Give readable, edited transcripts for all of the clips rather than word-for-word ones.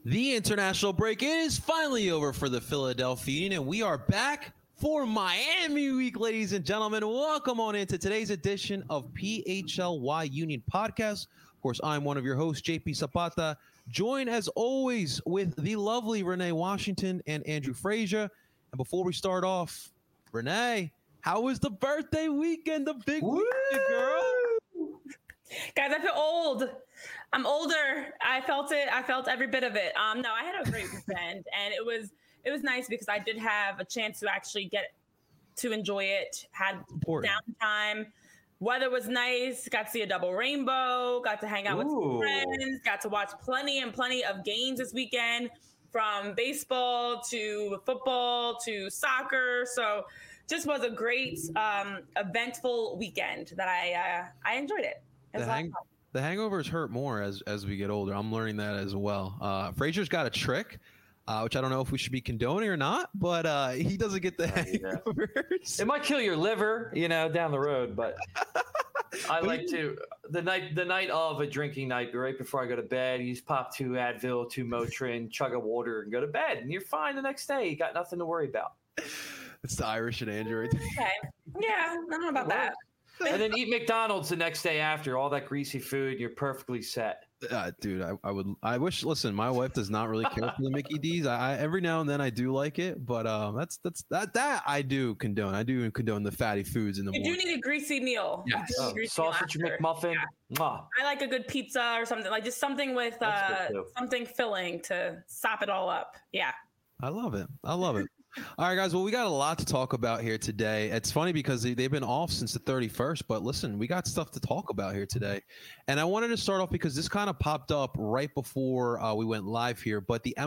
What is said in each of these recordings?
The international break is finally over for the Philadelphia Union, and we are back for Miami Week, ladies and gentlemen. Welcome on into today's edition of PHLY Union Podcast. Of course, I'm one of your hosts, JP Zapata, joined as always with the lovely Renee Washington and Andrew Frazier. And before we start off, Renee, how was the birthday weekend? The big weekend, girl. Guys, I feel old. I'm older. I felt it. I felt every bit of it. No, I had a great weekend, and it was nice because I did have a chance to actually get to enjoy it. Had downtime. Weather was nice. Got to see a double rainbow. Got to hang out with some friends. Got to watch plenty of games this weekend, from baseball to football to soccer. So, just was a great, eventful weekend that I enjoyed it. The hangovers hurt more as we get older. I'm learning that as well. Frazier's got a trick, which I don't know if we should be condoning or not, but he doesn't get the hangovers. It might kill your liver, down the road, but I like to the night of a drinking night, right before I go to bed, you just pop 2 Advil, 2 Motrin, chug a water, and go to bed, and you're fine the next day. You got nothing to worry about. It's the Irish and Andrew. Okay. Yeah, I don't know about that. And then eat McDonald's the next day after all that greasy food. You're perfectly set. Dude, I wish. Listen, my wife does not really care for the Mickey D's. I every now and then I do like it, but that I do condone. I do condone the fatty foods in the morning. You do need a greasy meal. Yes. Sausage McMuffin. Yeah. I like a good pizza or something, like just something with something filling to sop it all up. Yeah. I love it. All right, guys. Well, we got a lot to talk about here today. It's funny because they've been off since the 31st, but listen, we got stuff to talk about here today. And I wanted to start off because this kind of popped up right before we went live here, but the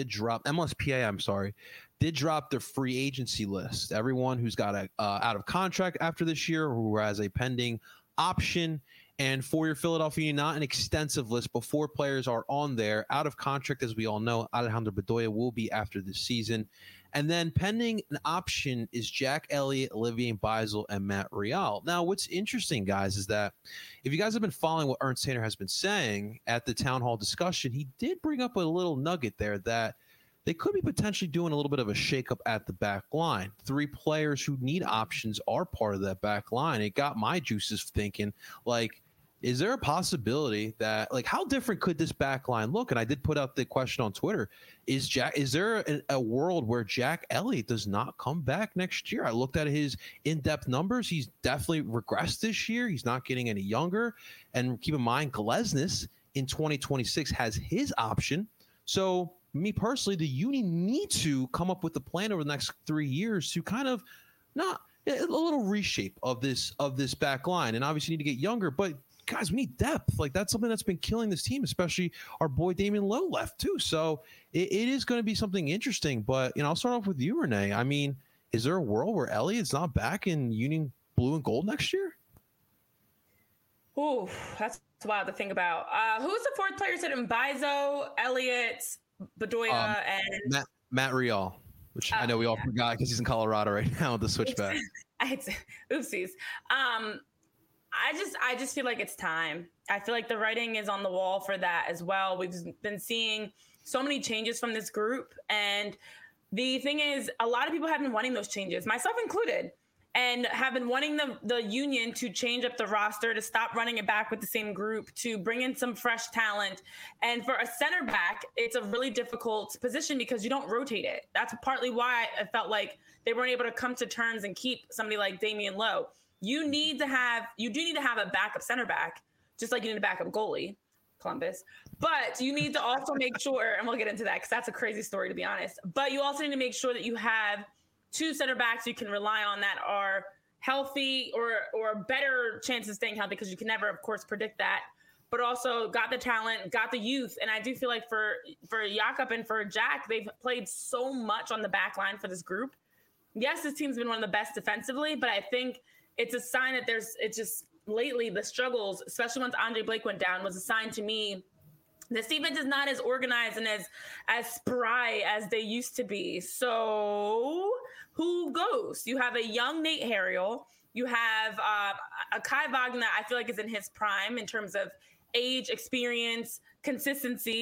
MLSPA did drop their free agency list. Everyone who's got a out of contract after this year, who has a pending option. And for your Philadelphia, not an extensive list, but 4 players are on there. Out of contract, as we all know, Alejandro Bedoya will be after this season. And then pending an option is Jack Elliott, Olivier Beisel, and Matt Real. Now, what's interesting, guys, is that if you guys have been following what Ernst Tanner has been saying at the town hall discussion, he did bring up a little nugget there that they could be potentially doing a little bit of a shakeup at the back line. 3 players who need options are part of that back line. It got my juices thinking, like, is there a possibility that, like, how different could this back line look? And I did put out the question on Twitter. Is there a world where Jack Elliott does not come back next year? I looked at his in-depth numbers. He's definitely regressed this year. He's not getting any younger. And keep in mind, Glesnes in 2026 has his option. So me personally, the Union need to come up with a plan over the next 3 years to kind of not a little reshape of this back line. And obviously need to get younger, but guys, we need depth. Like, that's something that's been killing this team, especially our boy Damian Lowe left too. So it is going to be something interesting. But I'll start off with you, Renee. I mean, is there a world where Elliott's not back in Union blue and gold next year? Ooh, that's wild to think about. Who's the 4th player? Said Mbaizo, Elliott, Bedoya, and Matt Real, which I know we all forgot because he's in Colorado right now with the switchback. Oopsies. I just feel like it's time. I feel like the writing is on the wall for that as well. We've been seeing so many changes from this group. And the thing is, a lot of people have been wanting those changes, myself included, and have been wanting the Union to change up the roster, to stop running it back with the same group, to bring in some fresh talent. And for a center back, it's a really difficult position because you don't rotate it. That's partly why I felt like they weren't able to come to terms and keep somebody like Damian Lowe. You do need to have a backup center back, just like you need a backup goalie, Columbus. But you need to also make sure, and we'll get into that because that's a crazy story, to be honest. But you also need to make sure that you have 2 center backs you can rely on that are healthy or better chance of staying healthy, because you can never, of course, predict that. But also got the talent, got the youth. And I do feel like for Jakob and for Jack, they've played so much on the back line for this group. Yes, this team's been one of the best defensively, but I think it's a sign that it's just lately the struggles, especially once Andre Blake went down, was a sign to me this defense is not as organized and as spry as they used to be. So who goes? You have a young Nate Harriel. You have a Kai Wagner, I feel like is in his prime in terms of age, experience, consistency.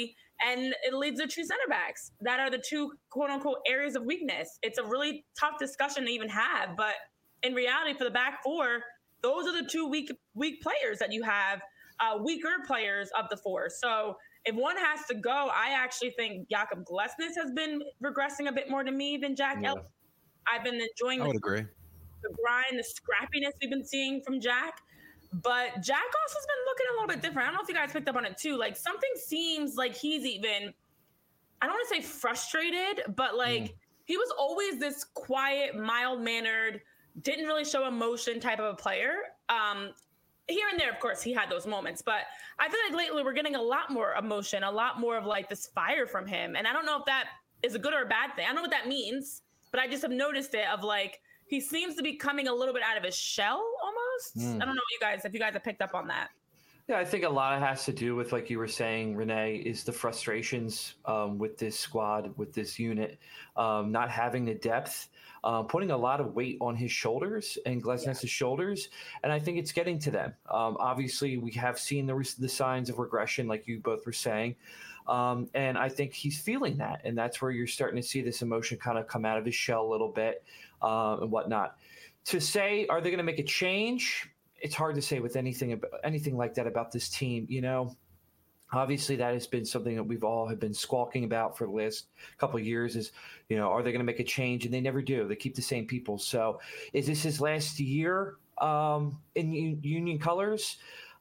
And it leads to two center backs that are the two quote unquote areas of weakness. It's a really tough discussion to even have, but in reality, for the back four, those are the two weak players that you have, weaker players of the four. So if one has to go, I actually think Jakob Glesnes has been regressing a bit more to me than Jack Elliott. I've been enjoying I would agree. The grind, the scrappiness we've been seeing from Jack. But Jack also has been looking a little bit different. I don't know if you guys picked up on it too. Like something seems like he's even, I don't want to say frustrated, but like he was always this quiet, mild-mannered, didn't really show emotion type of a player. Here and there, of course, he had those moments. But I feel like lately we're getting a lot more emotion, a lot more of like this fire from him. And I don't know if that is a good or a bad thing. I don't know what that means, but I just have noticed it of like, he seems to be coming a little bit out of his shell almost. I don't know if you guys have picked up on that. Yeah, I think a lot has to do with, like you were saying, Renee, is the frustrations with this squad, with this unit, not having the depth, putting a lot of weight on his shoulders and Glesnes' shoulders. And I think it's getting to them. Obviously, we have seen the signs of regression, like you both were saying. And I think he's feeling that. And that's where you're starting to see this emotion kind of come out of his shell a little bit and whatnot. To say, are they going to make a change? It's hard to say with anything like that about this team. You know, obviously that has been something that we've all have been squawking about for the last couple of years is, you know, are they going to make a change? And they never do. They keep the same people. So is this his last year in Union colors?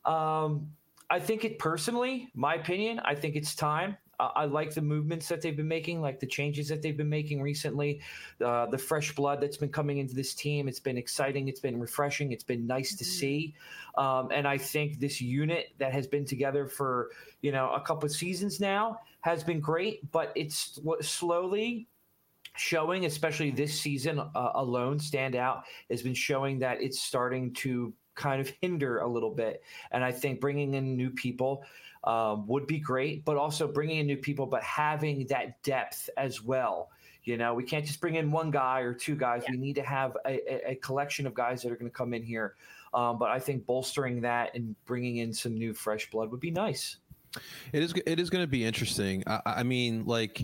I think it personally, my opinion, I think it's time. I like the movements that they've been making, like the changes that they've been making recently, the fresh blood that's been coming into this team. It's been exciting. It's been refreshing. It's been nice to see. And I think this unit that has been together for, you know, a couple of seasons now has been great, but it's slowly showing, especially this season alone, stand out, has been showing that it's starting to kind of hinder a little bit. And I think bringing in new people would be great, but also bringing in new people, but having that depth as well. You know, we can't just bring in one guy or two guys. We need to have a collection of guys that are going to come in here. But I think bolstering that and bringing in some new fresh blood would be nice. It is going to be interesting. I mean, like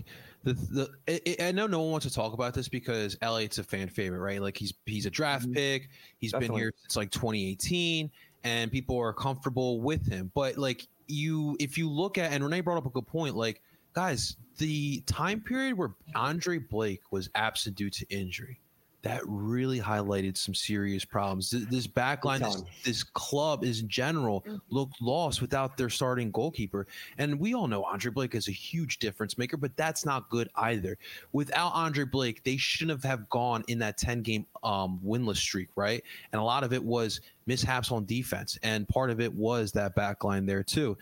I know no one wants to talk about this because Elliott's a fan favorite, right? Like he's a draft pick. He's been here since like 2018, and people are comfortable with him. But like if you look at, and Renee brought up a good point, like guys, the time period where Andre Blake was absent due to injury, that really highlighted some serious problems. This backline, this club is in general looked lost without their starting goalkeeper. And we all know Andre Blake is a huge difference maker, but that's not good either. Without Andre Blake, they shouldn't have gone in that 10-game winless streak, right? And a lot of it was mishaps on defense, and part of it was that backline there too.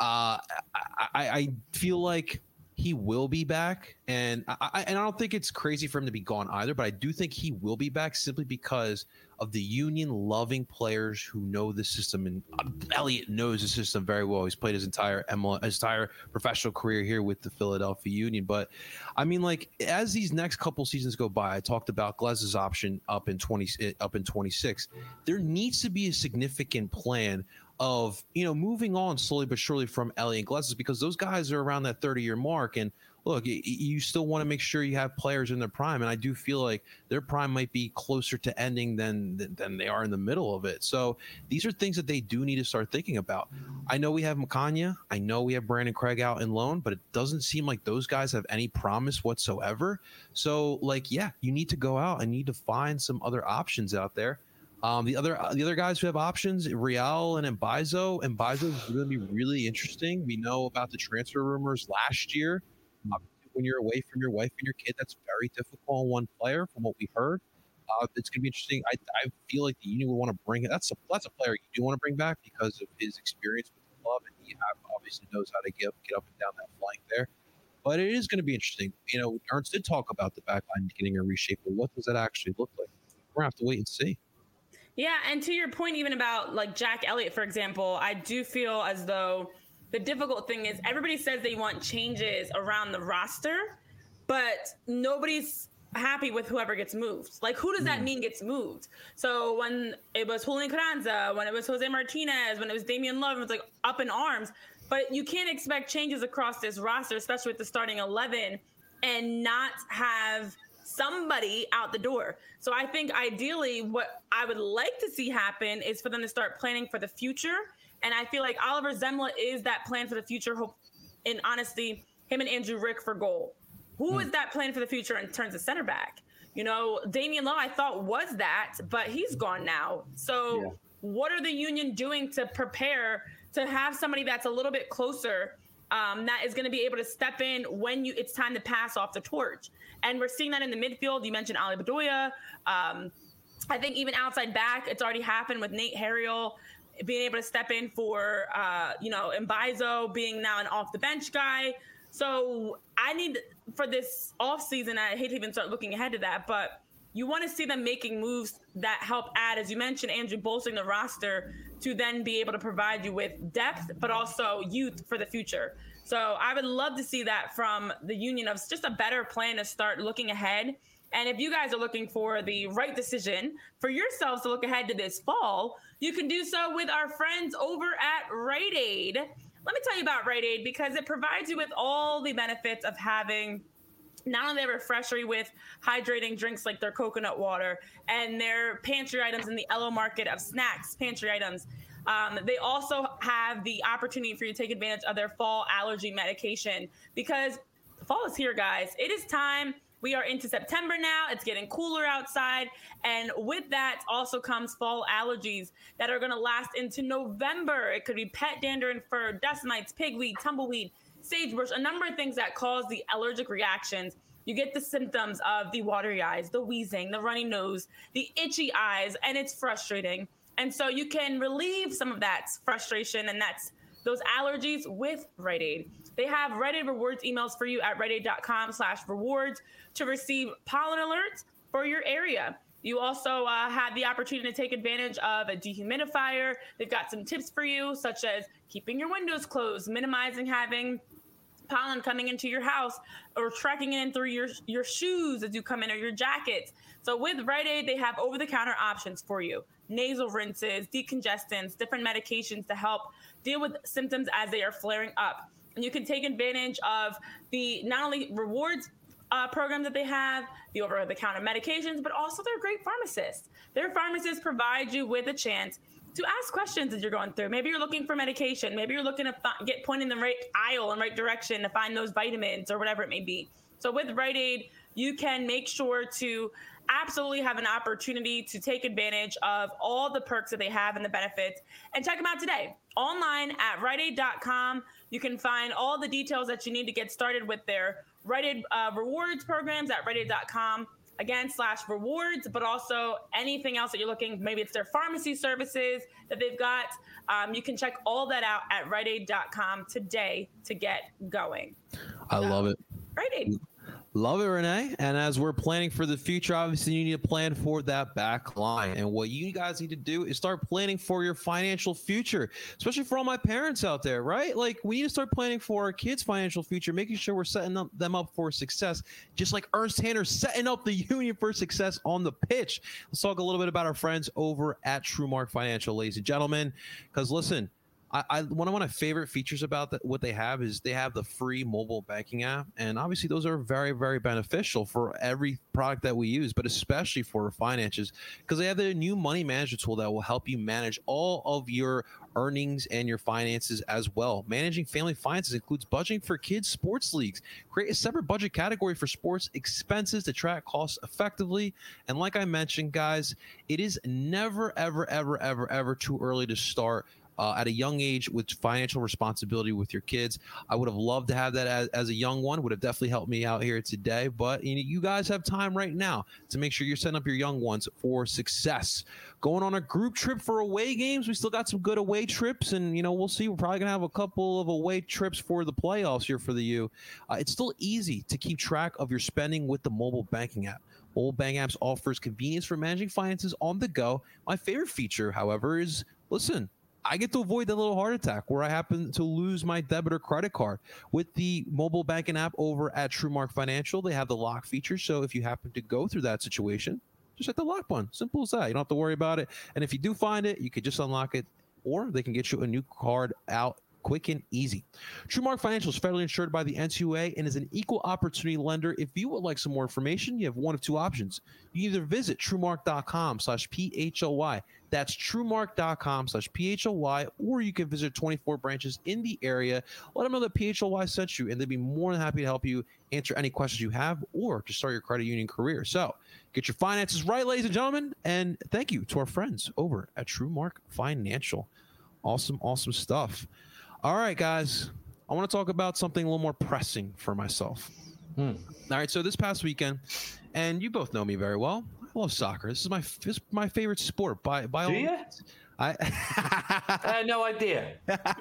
I feel like he will be back, and I don't think it's crazy for him to be gone either, but I do think he will be back simply because of the Union loving players who know the system, and Elliott knows the system very well. He's played his entire professional career here with the Philadelphia Union. But I mean, like, as these next couple seasons go by, I talked about Gles's option up in 26. There needs to be a significant plan of, you know, moving on slowly but surely from Elliott and Glesnes, because those guys are around that 30-year mark. And look, you still want to make sure you have players in their prime. And I do feel like their prime might be closer to ending than they are in the middle of it. So these are things that they do need to start thinking about. I know we have Makanya. I know we have Brandon Craig out in loan, but it doesn't seem like those guys have any promise whatsoever. So, like, yeah, you need to go out and need to find some other options out there. The other guys who have options, Real and Mbaizo. Mbaizo is going to be really interesting. We know about the transfer rumors last year. When you're away from your wife and your kid, that's very difficult on one player, from what we heard. It's going to be interesting. I feel like the Union would want to bring it. That's a player you do want to bring back because of his experience with the club, and he obviously knows how to get up and down that flank there. But it is going to be interesting. You know, Ernst did talk about the back line getting a reshape, but what does that actually look like? We're going to have to wait and see. Yeah, and to your point, even about like Jack Elliott, for example, I do feel as though the difficult thing is everybody says they want changes around the roster, but nobody's happy with whoever gets moved. Like, who does that mean gets moved? So when it was Julian Carranza, when it was Jose Martinez, when it was Damian Love, it was like up in arms. but you can't expect changes across this roster, especially with the starting 11, and not have somebody out the door. So I think ideally what I would like to see happen is for them to start planning for the future. And I feel like Oliver Zemla is that plan for the future. And honestly, him and Andrew Rick for goal. Who is that plan for the future in terms of center back? You know, Damian Lowe, I thought was that, but he's gone now. So what are the Union doing to prepare to have somebody that's a little bit closer that is going to be able to step in when it's time to pass off the torch? And we're seeing that in the midfield. You mentioned Ali Bedoya. I think even outside back, it's already happened with Nate Harriel being able to step in for, Mbaizo being now an off the bench guy. So I need for this offseason, I hate to even start looking ahead to that, but you want to see them making moves that help add, as you mentioned, Andrew, bolstering the roster to then be able to provide you with depth, but also youth for the future. So I would love to see that from the Union, of just a better plan to start looking ahead. And if you guys are looking for the right decision for yourselves to look ahead to this fall, you can do so with our friends over at Rite Aid. Let me tell you about Rite Aid because it provides you with all the benefits of having not only their refreshery with hydrating drinks like their coconut water and their pantry items in the Elo Market of snacks, pantry items. They also have the opportunity for you to take advantage of their fall allergy medication because fall is here, guys. It is time. We are into September now. It's getting cooler outside. And with that also comes fall allergies that are going to last into November. It could be pet dander and fur, dust mites, pigweed, tumbleweed, sagebrush, a number of things that cause the allergic reactions. You get the symptoms of the watery eyes, the wheezing, the runny nose, the itchy eyes, and it's frustrating. And so you can relieve some of that frustration and those allergies with Rite Aid. They have Rite Aid rewards emails for you at riteaid.com/rewards to receive pollen alerts for your area. You also have the opportunity to take advantage of a dehumidifier. They've got some tips for you, such as keeping your windows closed, minimizing having pollen coming into your house, or tracking it in through your shoes as you come in, or your jackets. So with Rite Aid, they have over-the-counter options for you. Nasal rinses, decongestants, different medications to help deal with symptoms as they are flaring up. And you can take advantage of the not only rewards program that they have, the over-the-counter medications, but also they're great pharmacists. Their pharmacists provide you with a chance to ask questions as you're going through. Maybe you're looking for medication. Maybe you're looking to get pointed in the right aisle and right direction to find those vitamins or whatever it may be. So with Rite Aid, you can make sure to absolutely have an opportunity to take advantage of all the perks that they have and the benefits. And check them out today. Online at riteaid.com, you can find all the details that you need to get started with their Rite Aid rewards programs at riteaid.com. Again, /rewards, but also anything else that you're looking, maybe it's their pharmacy services that they've got. You can check all that out at riteaid.com today to get going. I love it. Rite Aid. Love it, Renee. And as we're planning for the future, obviously you need to plan for that back line. And what you guys need to do is start planning for your financial future, especially for all my parents out there, right? Like, we need to start planning for our kids' financial future, making sure we're setting them up for success, just like Ernst Tanner setting up the Union for success on the pitch. Let's talk a little bit about our friends over at TrueMark Financial, ladies and gentlemen, because listen, one of my favorite features about what they have is they have the free mobile banking app. And obviously those are very, very beneficial for every product that we use, but especially for finances, because they have the new money management tool that will help you manage all of your earnings and your finances as well. Managing family finances includes budgeting for kids' sports leagues. Create a separate budget category for sports expenses to track costs effectively. And like I mentioned, guys, it is never, ever, ever, ever, ever too early to start at a young age with financial responsibility with your kids. I would have loved to have that as a young one. Would have definitely helped me out here today. But you guys have time right now to make sure you're setting up your young ones for success. Going on a group trip for away games. We still got some good away trips, and we'll see. We're probably gonna have a couple of away trips for the playoffs here for the U. It's still easy to keep track of your spending with the mobile banking app. Mobile banking apps offers convenience for managing finances on the go. My favorite feature, however, is I get to avoid that little heart attack where I happen to lose my debit or credit card. With the mobile banking app over at TrueMark Financial, they have the lock feature. So if you happen to go through that situation, just hit the lock button. Simple as that. You don't have to worry about it. And if you do find it, you could just unlock it, or they can get you a new card out quick and easy. TrueMark Financial is federally insured by the NCUA and is an equal opportunity lender. If you would like some more information, you have one of two options. You either visit TrueMark.com/PHOY. That's TrueMark.com/PHOY, or you can visit 24 branches in the area. Let them know that PHOY sent you, and they'd be more than happy to help you answer any questions you have or to start your credit union career. So get your finances right, ladies and gentlemen, and thank you to our friends over at TrueMark Financial. Awesome, awesome stuff. All right, guys, I want to talk about something a little more pressing for myself. All right, so this past weekend, and you both know me very well, I love soccer. This is my favorite sport. By all means. I had no idea.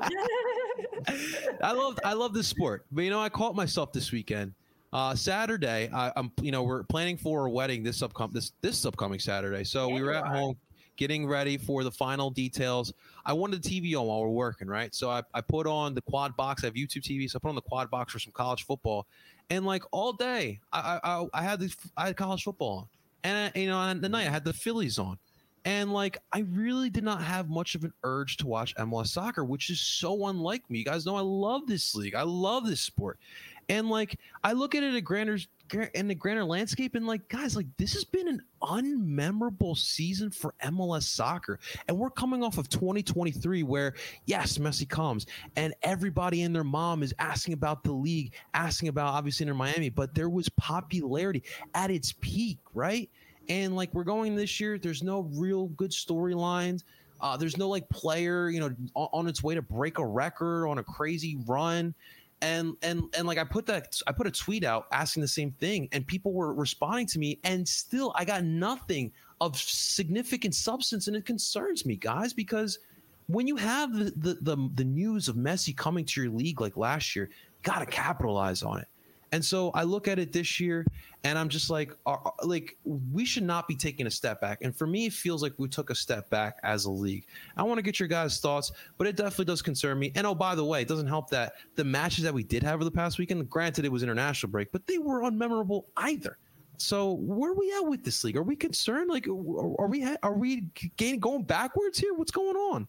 I love this sport, but I caught myself this weekend. Saturday, we're planning for a wedding this upcoming Saturday. So we were at home getting ready for the final details. I wanted the TV on while we're working, right? So I put on the quad box. I have YouTube TV, so I put on the quad box for some college football, and like all day, I had college football on, and on the night I had the Phillies on. And like, I really did not have much of an urge to watch MLS soccer, which is so unlike me. You guys know I love this league. I love this sport. And like, I look at it in the grander landscape, and like, guys, like, this has been an unmemorable season for MLS soccer. And we're coming off of 2023 where, yes, Messi comes and everybody and their mom is asking about the league, asking about obviously Inter Miami, but there was popularity at its peak, right? And like, we're going this year, there's no real good storylines. There's no like player, on its way to break a record on a crazy run. And like, I put a tweet out asking the same thing, and people were responding to me, and still I got nothing of significant substance. And it concerns me, guys, because when you have the news of Messi coming to your league like last year, you got to capitalize on it. And so I look at it this year, and I'm just like we should not be taking a step back. And for me, it feels like we took a step back as a league. I want to get your guys' thoughts, but it definitely does concern me. And oh, by the way, it doesn't help that the matches that we did have over the past weekend, granted it was international break, but they were unmemorable either. So where are we at with this league? Are we concerned? Like, are we going backwards here? What's going on?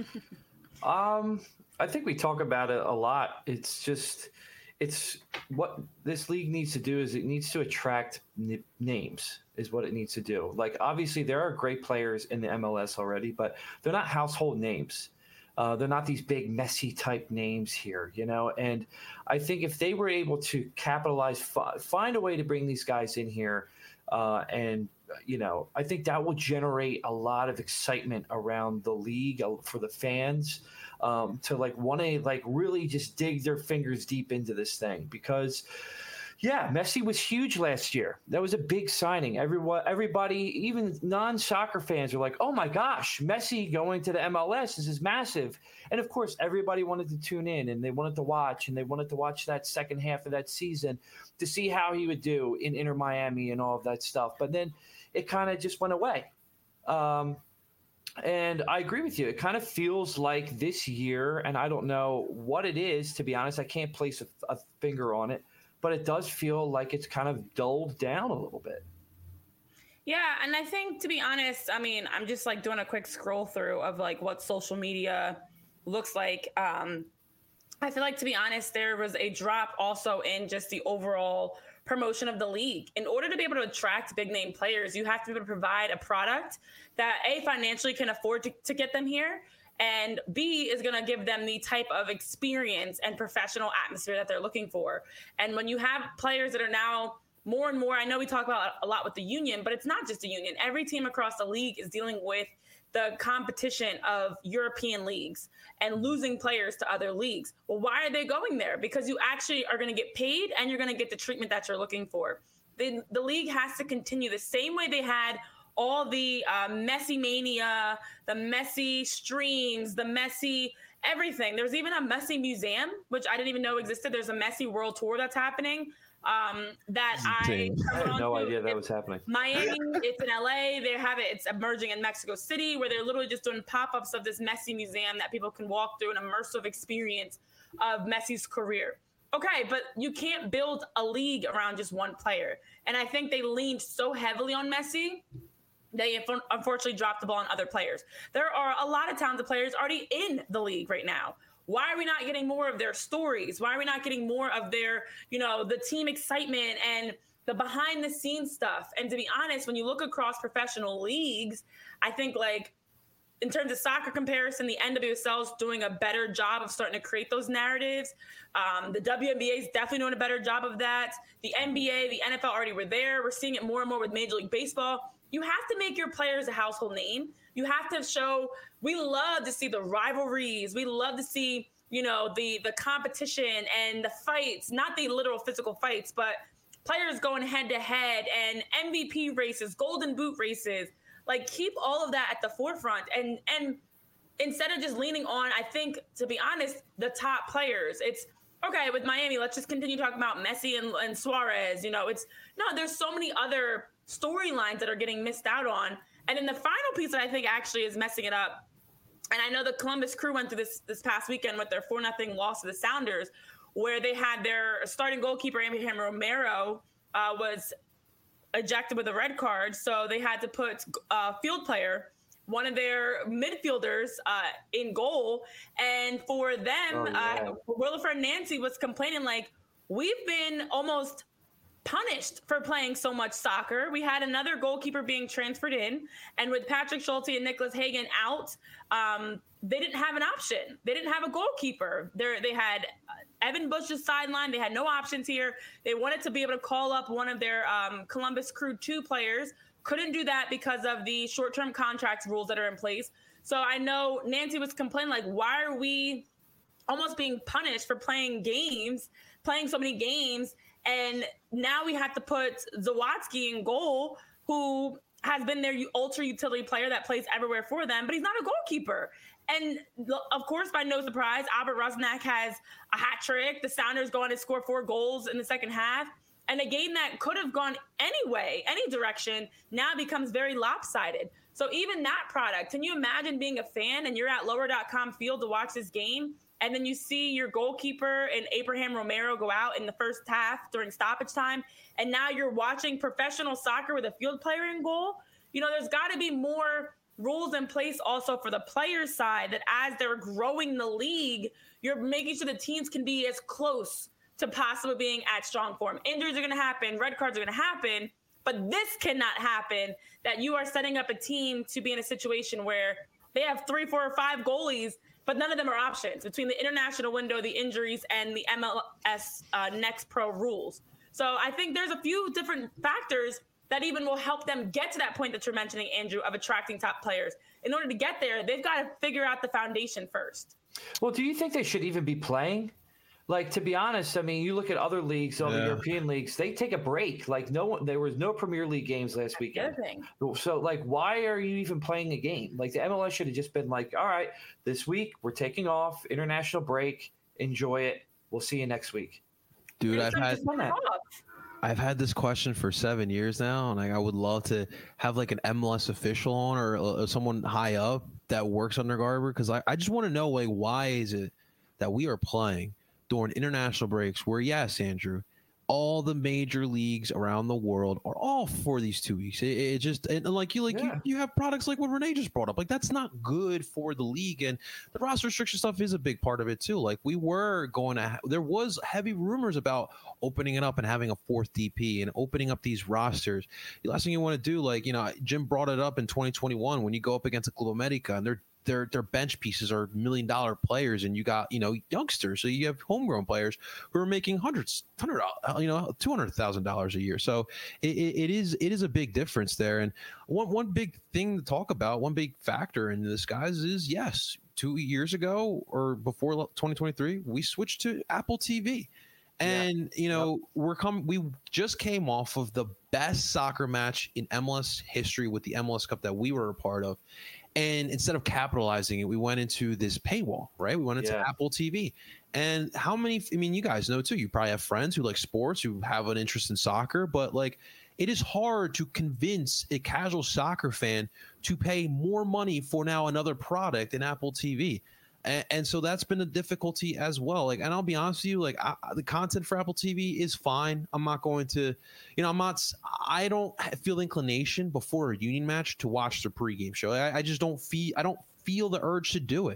I think we talk about it a lot. It's what this league needs to do is it needs to attract names is what it needs to do. Like, obviously there are great players in the MLS already, but they're not household names. They're not these big Messi type names here, and I think if they were able to capitalize, find a way to bring these guys in here, and I think that will generate a lot of excitement around the league for the fans. To want to really just dig their fingers deep into this thing, because Messi was huge last year. That was a big signing. Everybody, even non-soccer fans, are like, oh my gosh, Messi going to the MLS, this is massive. And of course, everybody wanted to tune in, and they wanted to watch, that second half of that season to see how he would do in Inter Miami and all of that stuff. But then it kind of just went away. And I agree with you. It kind of feels like this year, and I don't know what it is, to be honest. I can't place a finger on it, but it does feel like it's kind of dulled down a little bit. Yeah, and I think, to be honest, I mean, I'm just like doing a quick scroll through of like what social media looks like. I feel like, to be honest, there was a drop also in just the overall promotion of the league. In order to be able to attract big name players, you have to be able to provide a product that A, financially can afford to get them here, and B, is going to give them the type of experience and professional atmosphere that they're looking for. And when you have players that are now more and more, I know we talk about a lot with the union, but it's not just a union. Every team across the league is dealing with the competition of European leagues and losing players to other leagues. Well, why are they going there? Because you actually are going to get paid, and you're going to get the treatment that you're looking for. The league has to continue the same way they had all the Messi mania, the Messi streams, the Messi everything. There's even a Messi museum, which I didn't even know existed. There's a Messi world tour that's happening. That I had no idea that was happening. Miami, it's in LA. They have it. It's emerging in Mexico City, where they're literally just doing pop-ups of this Messi museum that people can walk through, an immersive experience of Messi's career. Okay, but you can't build a league around just one player. And I think they leaned so heavily on Messi, they unfortunately dropped the ball on other players. There are a lot of talented players already in the league right now. why are we not getting more of their stories? Why are we not getting more of their, the team excitement and the behind the scenes stuff? And to be honest, when you look across professional leagues, I think like in terms of soccer comparison, the NWSL is doing a better job of starting to create those narratives. The WNBA is definitely doing a better job of that. The NBA, the NFL already were there. We're seeing it more and more with Major League Baseball. You have to make your players a household name. You have to show, we love to see the rivalries. We love to see, the competition and the fights, not the literal physical fights, but players going head to head and MVP races, golden boot races. Like, keep all of that at the forefront. And instead of just leaning on, I think, to be honest, the top players, it's okay with Miami. Let's just continue talking about Messi and Suarez. There's so many other storylines that are getting missed out on. And then the final piece that I think actually is messing it up, and I know the Columbus Crew went through this past weekend with their 4-0 loss to the Sounders, where they had their starting goalkeeper, Abraham Romero, was ejected with a red card. So they had to put a field player, one of their midfielders, in goal. And for them, Wilfred Nancy was complaining like, we've been almost punished for playing so much soccer. We had another goalkeeper being transferred in, and with Patrick Schulte and Nicholas Hagen out, they didn't have an option. They didn't have a goalkeeper. They had Evan Bush's sideline. They had no options here. They wanted to be able to call up one of their Columbus Crew 2 players. Couldn't do that because of the short-term contracts rules that are in place. So I know Nancy was complaining, like, why are we almost being punished for playing so many games? And now we have to put Zawadzki in goal, who has been their ultra utility player that plays everywhere for them, but he's not a goalkeeper. And of course, by no surprise, Albert Rusnak has a hat trick. The Sounders go on to score 4 goals in the second half. And a game that could have gone any direction, now becomes very lopsided. So even that product, can you imagine being a fan and you're at lower.com field to watch this game, and then you see your goalkeeper and Abraham Romero go out in the first half during stoppage time, and now you're watching professional soccer with a field player in goal? There's got to be more rules in place also for the players' side, that as they're growing the league, you're making sure the teams can be as close to possibly being at strong form. Injuries are going to happen. Red cards are going to happen. But this cannot happen, that you are setting up a team to be in a situation where they have 3, 4, or 5 goalies, but none of them are options between the international window, the injuries, and the MLS Next Pro rules. So I think there's a few different factors that even will help them get to that point that you're mentioning, Andrew, of attracting top players. In order to get there, they've got to figure out the foundation first. Well, do you think they should even be playing? Like, to be honest, I mean, you look at other leagues, all the European leagues, they take a break. Like, there was no Premier League games last weekend. So, like, why are you even playing a game? Like, the MLS should have just been like, all right, this week we're taking off, international break, enjoy it. We'll see you next week. Dude, I've had this question for 7 years now, and I would love to have like an MLS official on, or someone high up that works under Garber, because I just want to know, like, why is it that we are playing during international breaks where, yes, Andrew, all the major leagues around the world are all for these 2 weeks. It just, and like you have products like what Renee just brought up. Like, that's not good for the league, and the roster restriction stuff is a big part of it too. Like, we were going to, there was heavy rumors about opening it up and having a 4th DP and opening up these rosters. The last thing you want to do, like, Jim brought it up in 2021 when you go up against a Club America and their bench pieces are $1 million players, and you got youngsters, so you have homegrown players who are making $200,000 a year. So it is a big difference there. And one big thing to talk about, one big factor in this, guys, is, yes, 2 years ago or before 2023, we switched to Apple TV. And we just came off of the best soccer match in MLS history with the MLS Cup that we were a part of. And instead of capitalizing it, we went into this paywall, right? We went into Apple TV. And how many, you guys know too, you probably have friends who like sports, who have an interest in soccer, but like, it is hard to convince a casual soccer fan to pay more money for now another product in Apple TV. And so that's been a difficulty as well. Like, and I'll be honest with you, like, the content for Apple TV is fine. I'm not going to, I don't feel inclination before a Union match to watch the pregame show. I just don't feel the urge to do it.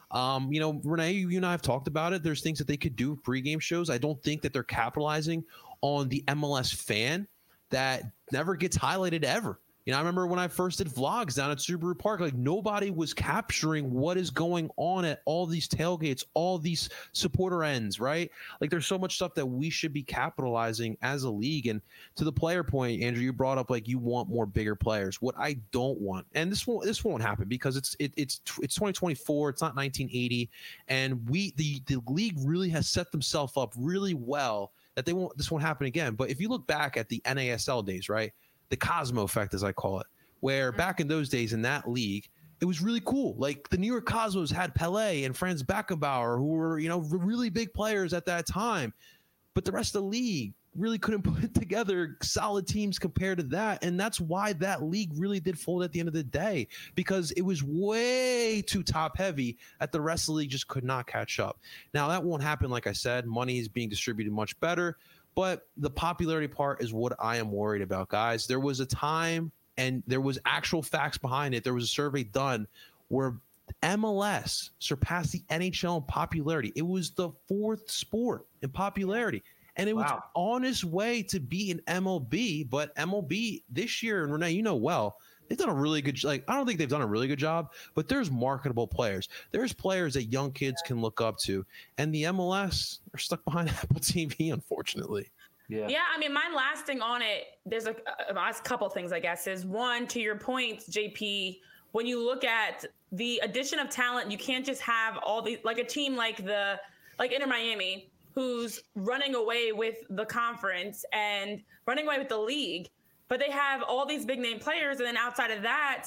Renee, you and I have talked about it. There's things that they could do with pregame shows. I don't think that they're capitalizing on the MLS fan that never gets highlighted ever. I remember when I first did vlogs down at Subaru Park, like nobody was capturing what is going on at all these tailgates, all these supporter ends, right? Like there's so much stuff that we should be capitalizing as a league. And to the player point, Andrew, you brought up like you want more bigger players. What I don't want, and this won't happen because it's 2024, it's not 1980, and the league really has set themselves up really well that this won't happen again. But if you look back at the NASL days, right? The Cosmo effect, as I call it, where back in those days in that league, it was really cool. Like the New York Cosmos had Pelé and Franz Beckenbauer, who were, really big players at that time. But the rest of the league really couldn't put together solid teams compared to that. And that's why that league really did fold at the end of the day, because it was way too top heavy that the rest of the league just could not catch up. Now, that won't happen. Like I said, money is being distributed much better. But the popularity part is what I am worried about, guys. There was a time, and there was actual facts behind it. There was a survey done where MLS surpassed the NHL in popularity. It was the fourth sport in popularity. And it was on its way to be an MLB. But MLB this year, and Renee, they've done a really good job. I don't think they've done a really good job, but there's marketable players. There's players that young kids can look up to. And the MLS are stuck behind Apple TV, unfortunately. Yeah. My last thing on it, there's a couple things, I guess, is one, to your point, JP, when you look at the addition of talent, you can't just have all these, like a team like Inter Miami, who's running away with the conference and running away with the league. But they have all these big name players. And then outside of that,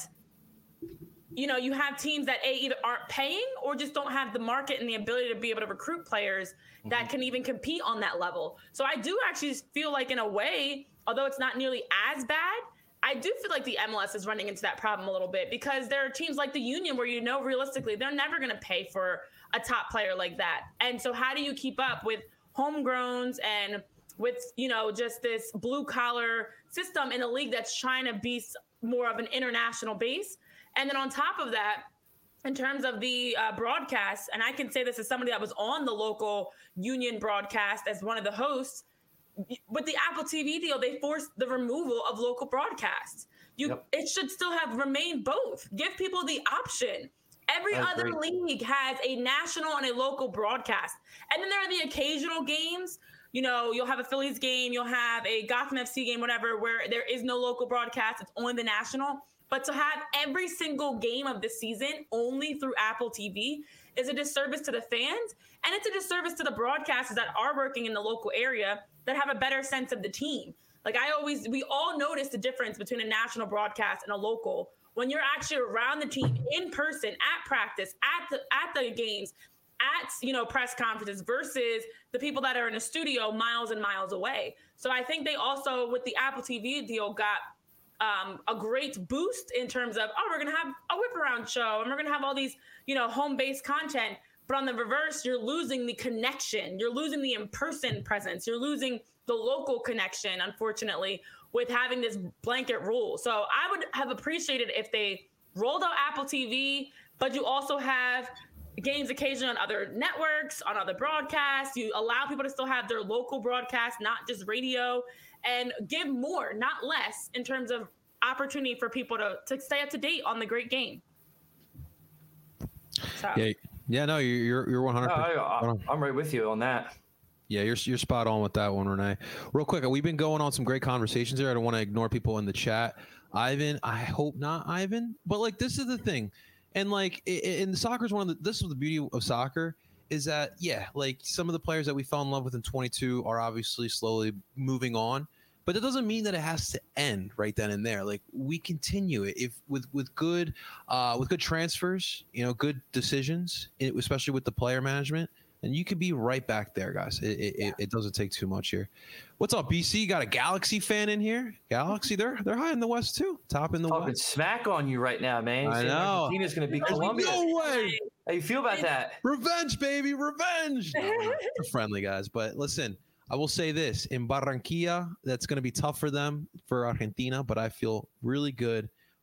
you have teams that either aren't paying or just don't have the market and the ability to be able to recruit players that can even compete on that level. So I do actually feel like, in a way, although it's not nearly as bad, I do feel like the MLS is running into that problem a little bit, because there are teams like the Union where, realistically, they're never going to pay for a top player like that. And so how do you keep up with homegrowns and with, just this blue collar system in a league that's trying to be more of an international base? And then on top of that, in terms of the broadcast, and I can say this as somebody that was on the local Union broadcast as one of the hosts, with the Apple TV deal, they forced the removal of local broadcasts. It should still have remained both. Give people the option. Every other league has a national and a local broadcast. And then there are the occasional games. You'll have a Phillies game, you'll have a Gotham FC game, whatever, where there is no local broadcast. It's only the national. But to have every single game of the season only through Apple TV is a disservice to the fans. And it's a disservice to the broadcasters that are working in the local area that have a better sense of the team. Like we all notice the difference between a national broadcast and a local when you're actually around the team in person, at practice, at the games, at press conferences, versus the people that are in a studio miles and miles away. So I think they also, with the Apple TV deal, got a great boost in terms of, we're going to have a whip around show and we're going to have all these, home-based content. But on the reverse, you're losing the connection. You're losing the in-person presence. You're losing the local connection, unfortunately, with having this blanket rule. So I would have appreciated if they rolled out Apple TV, but you also have games occasionally on other networks, on other broadcasts. You allow people to still have their local broadcast, not just radio, and give more, not less, in terms of opportunity for people to stay up to date on the great game. So. Yeah, no, you're 100%. I'm right with you on that. Yeah, you're spot on with that one, Renee. Real quick, we've been going on some great conversations here. I don't want to ignore people in the chat. Ivan, I hope not Ivan, but this is the thing. And in soccer is this is the beauty of soccer, is that, some of the players that we fell in love with in 22 are obviously slowly moving on, but that doesn't mean that it has to end right then and there. We continue it if with good transfers, good decisions, especially with the player management, and you could be right back there, guys. It doesn't take too much here. What's up, BC? Got a Galaxy fan in here. Galaxy, they're high in the West too. Top in the Talking West. Smack on you right now, man. I know. Argentina's going to beat Colombia. No way. How you feel about that? Revenge, baby, revenge. No, we're friendly, guys. But listen, I will say this. In Barranquilla, that's going to be tough for them, for Argentina, but I feel really good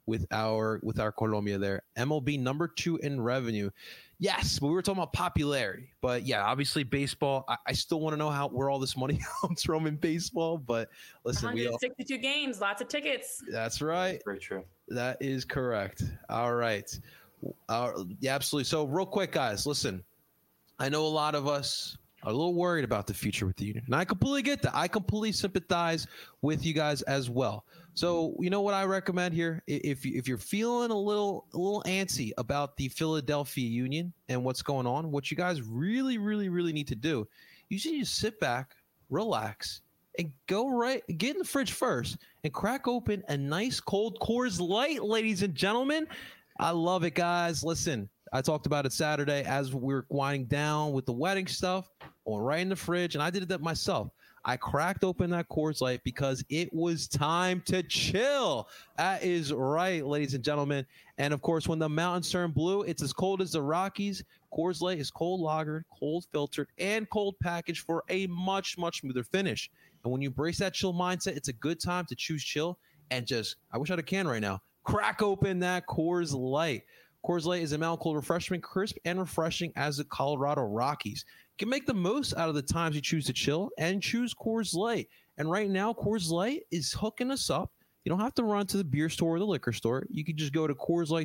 with our Colombia there. MLB number 2 in revenue. Yes, but we were talking about popularity. But yeah, obviously baseball. I still want to know where all this money comes from in baseball. But listen, 162 games, lots of tickets. That's right. Very true. That is correct. All right. Yeah, absolutely. So real quick, guys, listen. I know a lot of us are a little worried about the future with the union, and I completely get that. I completely sympathize with you guys as well. So you know what I recommend here? If you're feeling a little antsy about the Philadelphia Union and what's going on, what you guys really need to do, you should just sit back, relax, and get in the fridge first and crack open a nice cold Coors Light, ladies and gentlemen. I love it, guys. Listen, I talked about it Saturday as we were winding down with the wedding stuff, going right in the fridge, and I did that myself. I cracked open that Coors Light because it was time to chill. That is right, ladies and gentlemen. And of course, when the mountains turn blue, it's as cold as the Rockies. Coors Light is cold lagered, cold filtered, and cold packaged for a much smoother finish. And when you embrace that chill mindset, it's a good time to choose chill and just, I wish I had a can right now, crack open that Coors Light. Coors Light is a mountain cold refreshment, crisp and refreshing as the Colorado Rockies. You can make the most out of the times you choose to chill and choose Coors Light. And right now, Coors Light is hooking us up. You don't have to run to the beer store or the liquor store. You can just go to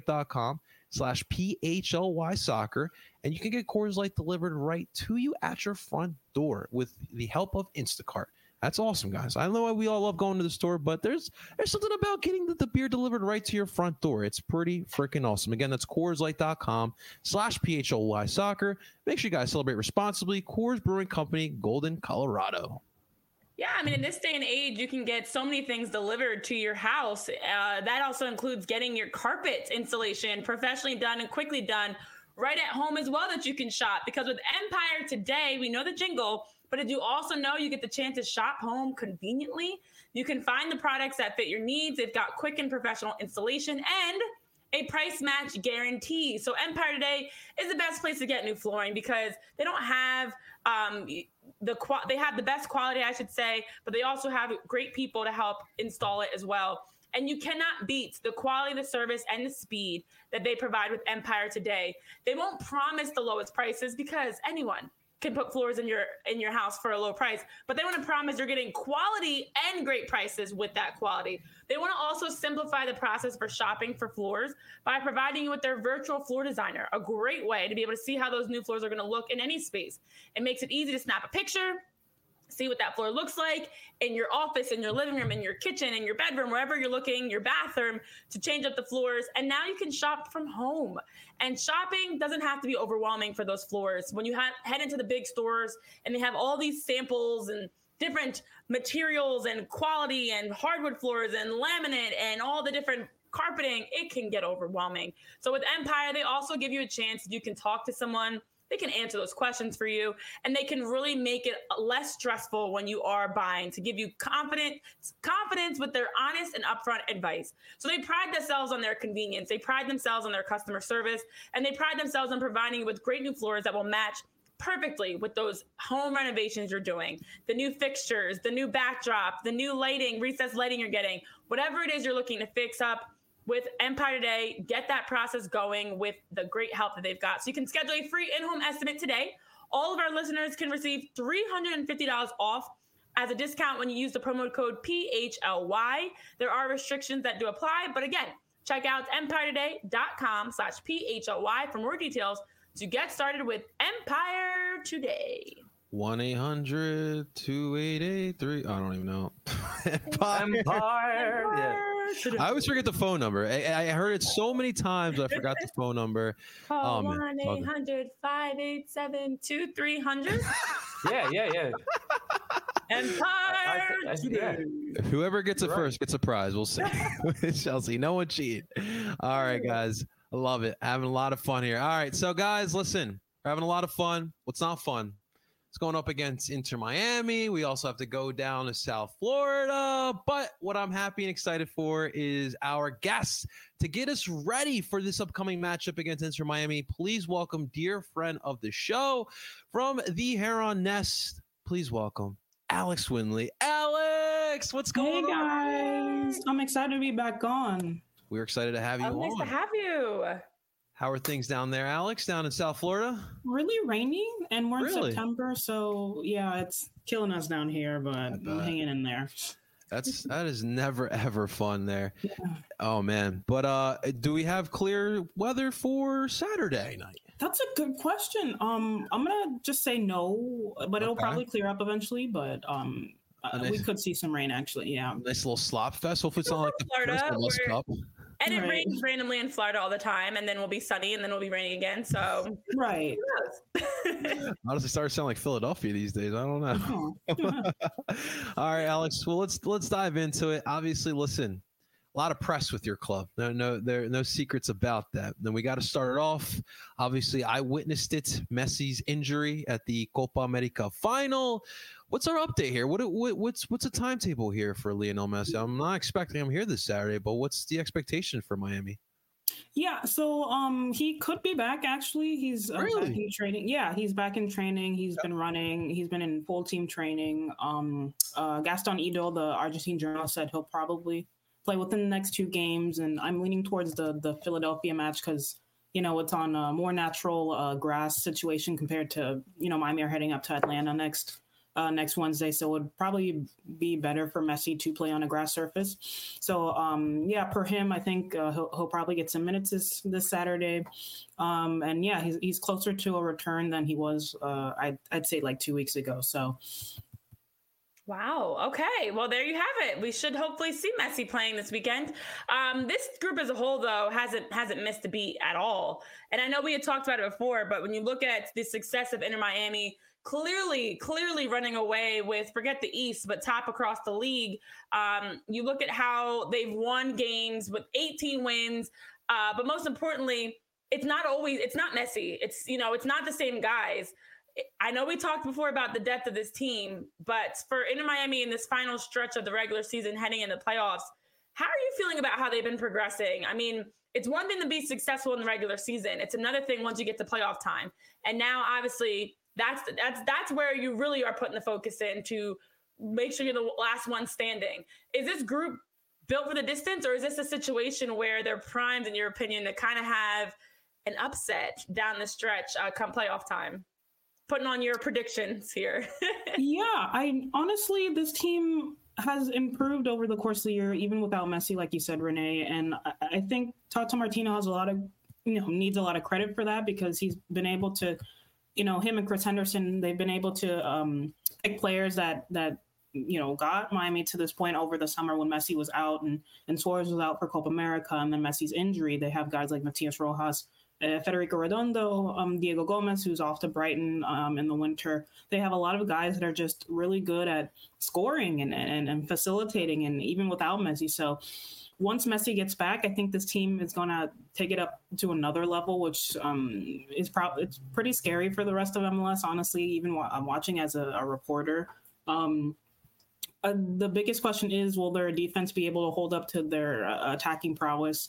CoorsLight.com/PHLY soccer, and you can get Coors Light delivered right to you at your front door with the help of Instacart. That's awesome, guys. I know we all love going to the store, but there's something about getting the beer delivered right to your front door. It's pretty freaking awesome. Again, that's CoorsLight.com/PHLY soccer. Make sure you guys celebrate responsibly. Coors Brewing Company, Golden, Colorado. Yeah, I mean, in this day and age, you can get so many things delivered to your house. That also includes getting your carpet installation professionally done and quickly done right at home as well, that you can shop. Because with Empire Today, we know the jingle, but did you also know you get the chance to shop home conveniently? You can find the products that fit your needs. They've got quick and professional installation and a price match guarantee. So Empire Today is the best place to get new flooring because they don't have they have the best quality, I should say, but they also have great people to help install it as well. And you cannot beat the quality, the service, and the speed that they provide with Empire Today. They won't promise the lowest prices because anyone can put floors in your house for a low price, but they want to promise you're getting quality and great prices with that quality. They want to also simplify the process for shopping for floors by providing you with their virtual floor designer, a great way to be able to see how those new floors are going to look in any space. It makes it easy to snap a picture, see what that floor looks like in your office, in your living room, in your kitchen, in your bedroom, wherever you're looking, your bathroom, to change up the floors. And now you can shop from home. And shopping doesn't have to be overwhelming for those floors. When you head into the big stores and they have all these samples and different materials and quality and hardwood floors and laminate and all the different carpeting, it can get overwhelming. So with Empire, they also give you a chance. You can talk to someone. They can answer those questions for you, and they can really make it less stressful when you are buying, to give you confidence with their honest and upfront advice. So they pride themselves on their convenience. They pride themselves on their customer service, and they pride themselves on providing you with great new floors that will match perfectly with those home renovations you're doing. The new fixtures, the new backdrop, the new lighting, recessed lighting you're getting, whatever it is you're looking to fix up. With Empire Today, get that process going with the great help that they've got. So you can schedule a free in-home estimate today. All of our listeners can receive $350 off as a discount when you use the promo code PHLY. There are restrictions that do apply, but again, check out empiretoday.com/PHLY for more details to get started with Empire Today. 1-800-288-3. I don't even know. Empire. Yeah. I always forget the phone number. I heard it so many times. I forgot the phone number. Call 1-800-587-2300. Yeah. Empire Today. Whoever gets it first gets a prize. We'll see. Chelsea, no one cheat. All right, guys. I love it. Having a lot of fun here. All right. So, guys, listen. We're having a lot of fun. What's not fun? It's going up against Inter Miami. We also have to go down to South Florida. But what I'm happy and excited for is our guests to get us ready for this upcoming matchup against Inter Miami. Please welcome dear friend of the show from the Heron Nest. Please welcome Alex Winley. Alex, what's going on? Hey guys, I'm excited to be back on. We're excited to have you on. Nice to have you. How are things down there, Alex, down in South Florida? Really rainy, and we're in September, so yeah, it's killing us down here, but I'm hanging in there. That is never ever fun there. Yeah. Oh man. But do we have clear weather for Saturday night? That's a good question. I'm gonna just say no, but it'll probably clear up eventually. But we could see some rain actually. Yeah. Nice little slop fest. Hopefully it's not like the first Cup. And it rains randomly in Florida all the time, and then we'll be sunny, and then we'll be raining again. So right. Honestly, starting to sound like Philadelphia these days. I don't know. All right, Alex. Well, let's dive into it. Obviously, listen, a lot of press with your club. No secrets about that. Then we got to start it off. Obviously, I witnessed it. Messi's injury at the Copa America final. What's our update here? What's the timetable here for Lionel Messi? I'm not expecting him here this Saturday, but what's the expectation for Miami? Yeah, so he could be back actually. He's back in training. Yeah, he's back in training. He's been running. He's been in full team training. Gaston Ido, the Argentine journalist, said he'll probably play within the next 2 games, and I'm leaning towards the Philadelphia match because it's on a more natural grass situation compared to Miami are heading up to Atlanta next Wednesday, so it would probably be better for Messi to play on a grass surface. So, per him, I think he'll probably get some minutes this Saturday. And yeah, he's closer to a return than he was, I'd say like 2 weeks ago. So. Wow. Okay. Well, there you have it. We should hopefully see Messi playing this weekend. This group as a whole, though, hasn't missed a beat at all. And I know we had talked about it before, but when you look at the success of Inter Miami, clearly running away with, forget the East, but top across the league. You look at how they've won games with 18 wins. But most importantly, it's not Messi. It's not the same guys. I know we talked before about the depth of this team, but for Inter Miami in this final stretch of the regular season heading into playoffs, how are you feeling about how they've been progressing? I mean, it's one thing to be successful in the regular season. It's another thing once you get to playoff time. And now, obviously, that's where you really are putting the focus in to make sure you're the last one standing. Is this group built for the distance, or is this a situation where they're primed, in your opinion, to kind of have an upset down the stretch come playoff time? Putting on your predictions here. Yeah, honestly, this team has improved over the course of the year, even without Messi, like you said, Renee. And I think Tata Martino has needs a lot of credit for that because he's been able to, him and Chris Henderson, they've been able to pick players that got Miami to this point over the summer when Messi was out and Suarez was out for Copa America, and then Messi's injury. They have guys like Matias Rojas, Federico Redondo, Diego Gomez, who's off to Brighton in the winter. They have a lot of guys that are just really good at scoring and facilitating, and even without Messi. So once Messi gets back, I think this team is going to take it up to another level, which is it's pretty scary for the rest of MLS, honestly, even I'm watching as a reporter. The biggest question is, will their defense be able to hold up to their attacking prowess?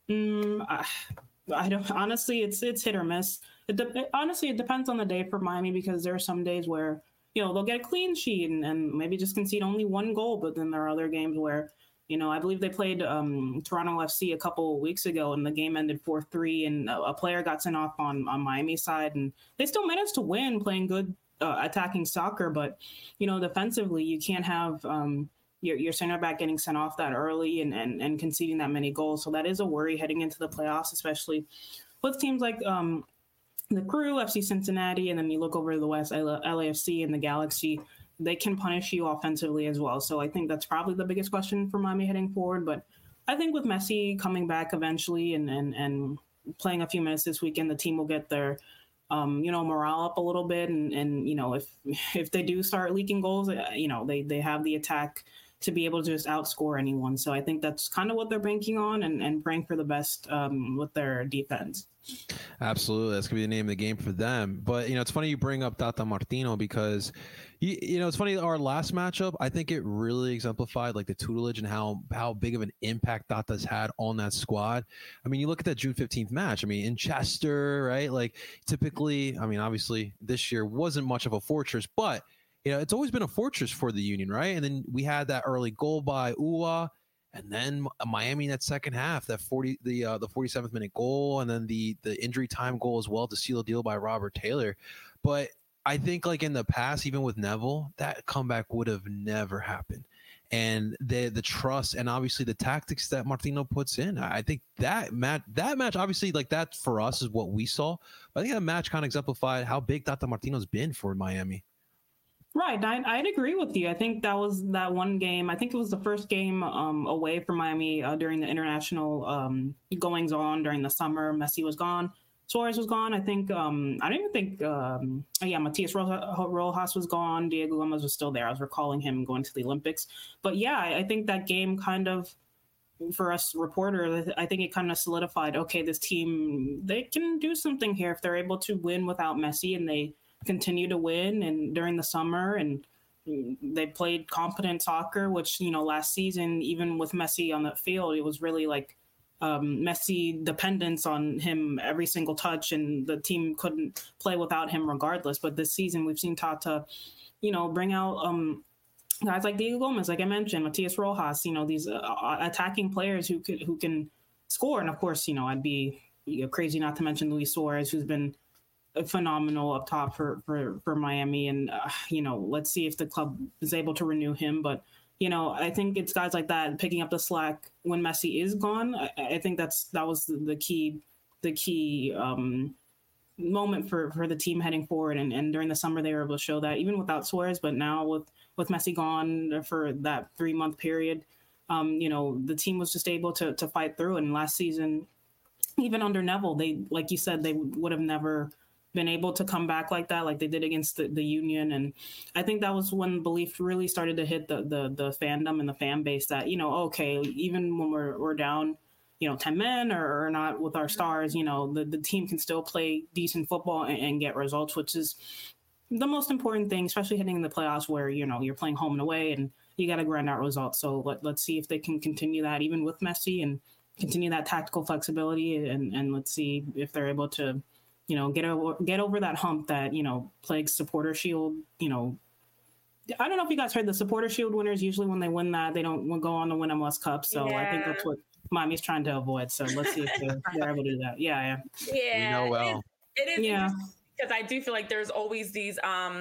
I don't. Honestly, it's hit or miss. Honestly, it depends on the day for Miami because there are some days where they'll get a clean sheet and maybe just concede only 1 goal, but then there are other games where I believe they played Toronto FC a couple of weeks ago and the game ended 4-3 and a player got sent off on Miami's side and they still managed to win playing good attacking soccer, but defensively you can't have your center back getting sent off that early and conceding that many goals. So that is a worry heading into the playoffs, especially with teams like the Crew, FC Cincinnati, and then you look over to the West, LAFC and the Galaxy. They can punish you offensively as well. So I think that's probably the biggest question for Miami heading forward. But I think with Messi coming back eventually and playing a few minutes this weekend, the team will get their morale up a little bit. And if they do start leaking goals, they have the attack to be able to just outscore anyone. So I think that's kind of what they're banking on and praying for the best with their defense. Absolutely. That's going to be the name of the game for them. But, it's funny you bring up Tata Martino because, it's funny, our last matchup, I think it really exemplified like the tutelage and how big of an impact Tata's had on that squad. I mean, you look at that June 15th match, in Chester, right? Like typically, obviously this year wasn't much of a fortress, but it's always been a fortress for the Union, right? And then we had that early goal by Ua. And then Miami in that second half, that 47th minute goal, and then the injury time goal as well to seal the deal by Robert Taylor. But I think like in the past, even with Neville, that comeback would have never happened. And the trust and obviously the tactics that Martino puts in, I think that match obviously like that for us is what we saw. But I think that match kind of exemplified how big Tata Martino's been for Miami. Right, I'd agree with you. I think that was that one game. I think it was the first game away from Miami during the international goings on during the summer. Messi was gone, Suarez was gone. I think I don't even think Matias Rojas was gone. Diego Gomez was still there. I was recalling him going to the Olympics. But yeah, I think that game kind of, for us reporters, I think it kind of solidified, okay, this team, they can do something here if they're able to win without Messi, and they continue to win and during the summer, and they played competent soccer, which, last season, even with Messi on the field, it was really like Messi dependence on him every single touch, and the team couldn't play without him regardless. But this season we've seen Tata, bring out guys like Diego Gomez, like I mentioned, Matias Rojas, these attacking players who can score. And of course, I'd be crazy not to mention Luis Suarez, who's been phenomenal up top for Miami. And, let's see if the club is able to renew him. But, I think it's guys like that picking up the slack when Messi is gone. I think that was the key moment for the team heading forward. And during the summer, they were able to show that even without Suarez, but now with Messi gone for that 3-month period, the team was just able to fight through. And last season, even under Neville, they, like you said, they would have never been able to come back like that, like they did against the Union. And I think that was when belief really started to hit the fandom and the fan base that, okay, even when we're down, 10 men or not with our stars, the team can still play decent football and get results, which is the most important thing, especially heading in the playoffs where, you're playing home and away and you got to grind out results. So let's see if they can continue that even with Messi and continue that tactical flexibility. And let's see if they're able to, get over that hump that, plagues Supporter Shield. I don't know if you guys heard, the Supporter Shield winners, usually when they win that, they don't go on to win MLS Cup. So yeah. I think that's what Miami's trying to avoid. So let's see if they're able to do that. Yeah. We know well. It is yeah. Because I do feel like there's always these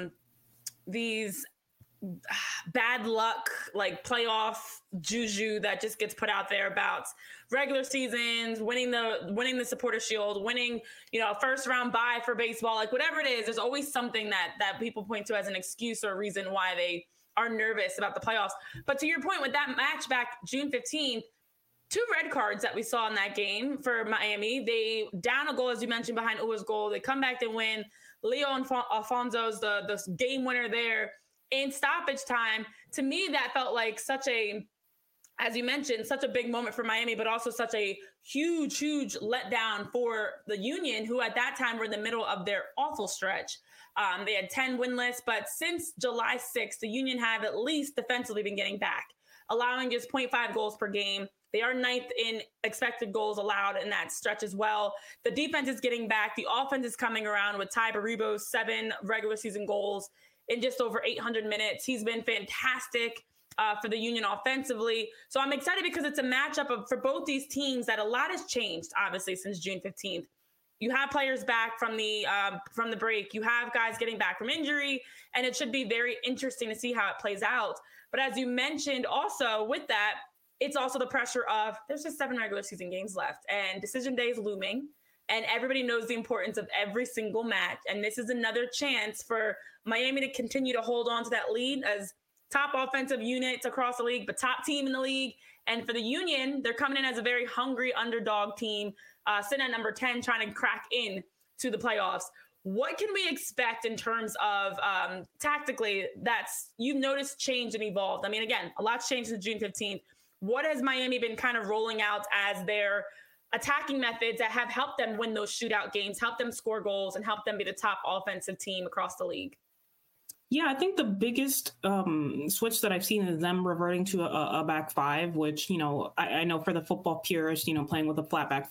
bad luck, like playoff juju that just gets put out there about regular seasons, winning the Supporter Shield, winning, first round bye for baseball, like whatever it is, there's always something that people point to as an excuse or a reason why they are nervous about the playoffs. But to your point, with that match back June 15th, 2 red cards that we saw in that game for Miami. They down a goal, as you mentioned, behind Uwa's goal. They come back and win. Leo Alfonso's the game winner there in stoppage time. To me, that felt like such a, as you mentioned, such a big moment for Miami, but also such a huge letdown for the Union, who at that time were in the middle of their awful stretch. They had 10 winless, but since July 6th, the Union have at least defensively been getting back, allowing just 0.5 goals per game. They are 9th in expected goals allowed in that stretch as well. The defense is getting back. The offense is coming around with Ty Baribo's 7 regular season goals in just over 800 minutes. He's been fantastic for the Union offensively. So I'm excited because it's a matchup for both these teams that a lot has changed, obviously, since June 15th. You have players back from the break. You have guys getting back from injury, and it should be very interesting to see how it plays out. But as you mentioned also with that, it's also the pressure of there's just 7 regular season games left and decision day is looming and everybody knows the importance of every single match. And this is another chance for Miami to continue to hold on to that lead as top offensive units across the league, but top team in the league. And for the Union, they're coming in as a very hungry underdog team, sitting at number 10, trying to crack in to the playoffs. What can we expect in terms of tactically you've noticed change and evolved? I mean, again, a lot's changed since June 15th. What has Miami been kind of rolling out as their attacking methods that have helped them win those shootout games, help them score goals, and help them be the top offensive team across the league? Yeah, I think the biggest switch that I've seen is them reverting to a back 5, which, I know for the football purists, playing with a flat back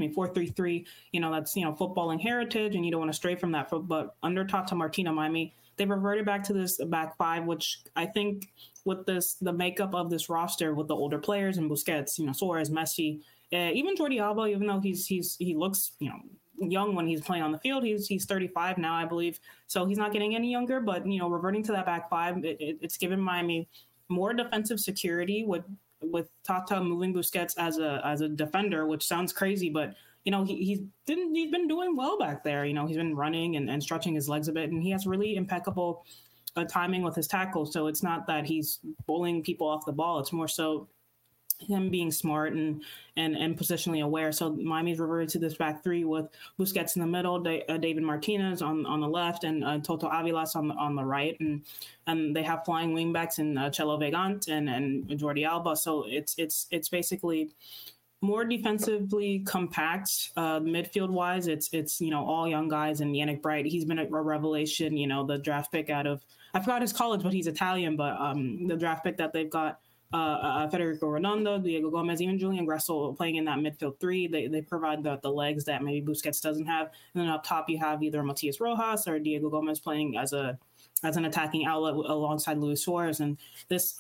4-3-3, that's, footballing heritage, and you don't want to stray from that. But under Tata Martino, Miami they reverted back to this back five, which I think with the makeup of this roster with the older players and Busquets, Suarez, Messi, even Jordi Alba, even though he looks, young when he's playing on the field, he's 35 now, I believe. So he's not getting any younger, but reverting to that back five, it's given Miami more defensive security with Tata moving Busquets as a defender, which sounds crazy, but he's been doing well back there. He's been running and stretching his legs a bit, and he has really impeccable timing with his tackles. So it's not that he's bowling people off the ball. It's more so him being smart and positionally aware. So Miami's reverted to this back three with Busquets in the middle, David Martinez on the left, and Toto Avilas on the right, and they have flying wingbacks in Chelo Vegant and Jordi Alba. So it's basically more defensively compact, midfield wise. It's all young guys, and Yannick Bright, he's been a revelation. The draft pick out of, I forgot his college, but he's Italian. But the draft pick that they've got, Federico Redondo, Diego Gomez, even Julian Gressel playing in that midfield three. They provide the legs that maybe Busquets doesn't have. And then up top you have either Matias Rojas or Diego Gomez playing as an attacking outlet alongside Luis Suarez. And this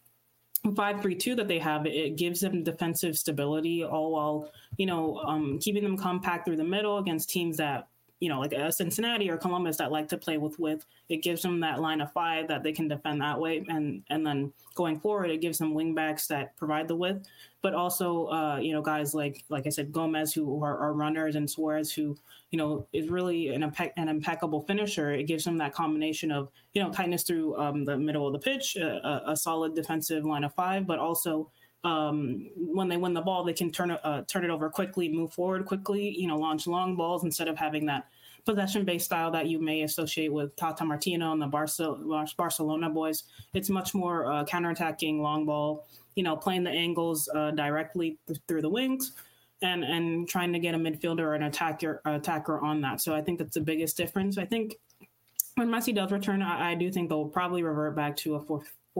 5-3-2 that they have, it gives them defensive stability, all while keeping them compact through the middle against teams that like Cincinnati or Columbus that like to play with width. It gives them that line of five that they can defend that way, and then going forward, it gives them wing backs that provide the width, but also guys like I said, Gomez, who are runners, and Suarez, who is really an impeccable finisher. It gives them that combination of tightness through the middle of the pitch, a solid defensive line of five, but also when they win the ball, they can turn it over quickly, move forward quickly, launch long balls instead of having that possession-based style that you may associate with Tata Martino and the Barcelona boys. It's much more counterattacking, long ball, playing the angles directly through the wings and trying to get a midfielder or an attacker on that. So I think that's the biggest difference. I think when Messi does return, I do think they'll probably revert back to a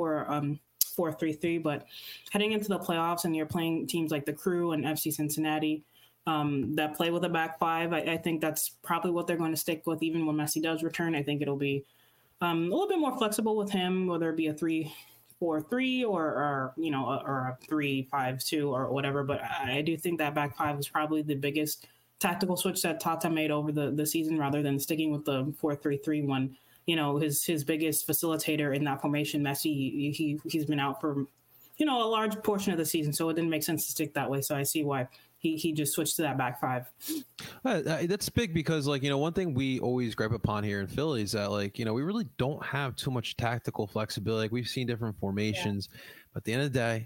4-3-3, but heading into the playoffs and you're playing teams like the Crew and FC Cincinnati that play with a back five, I think that's probably what they're going to stick with even when Messi does return. I think it'll be a little bit more flexible with him, whether it be a 3-4-3 or a 3-5-2 or whatever. But I do think that back five is probably the biggest tactical switch that Tata made over the season, rather than sticking with the 4-3-3 one. His biggest facilitator in that formation, Messi, he's been out for, a large portion of the season. So it didn't make sense to stick that way. So I see why he just switched to that back five. That's big because, one thing we always gripe upon here in Philly is that, we really don't have too much tactical flexibility. We've seen different formations, but at the end of the day,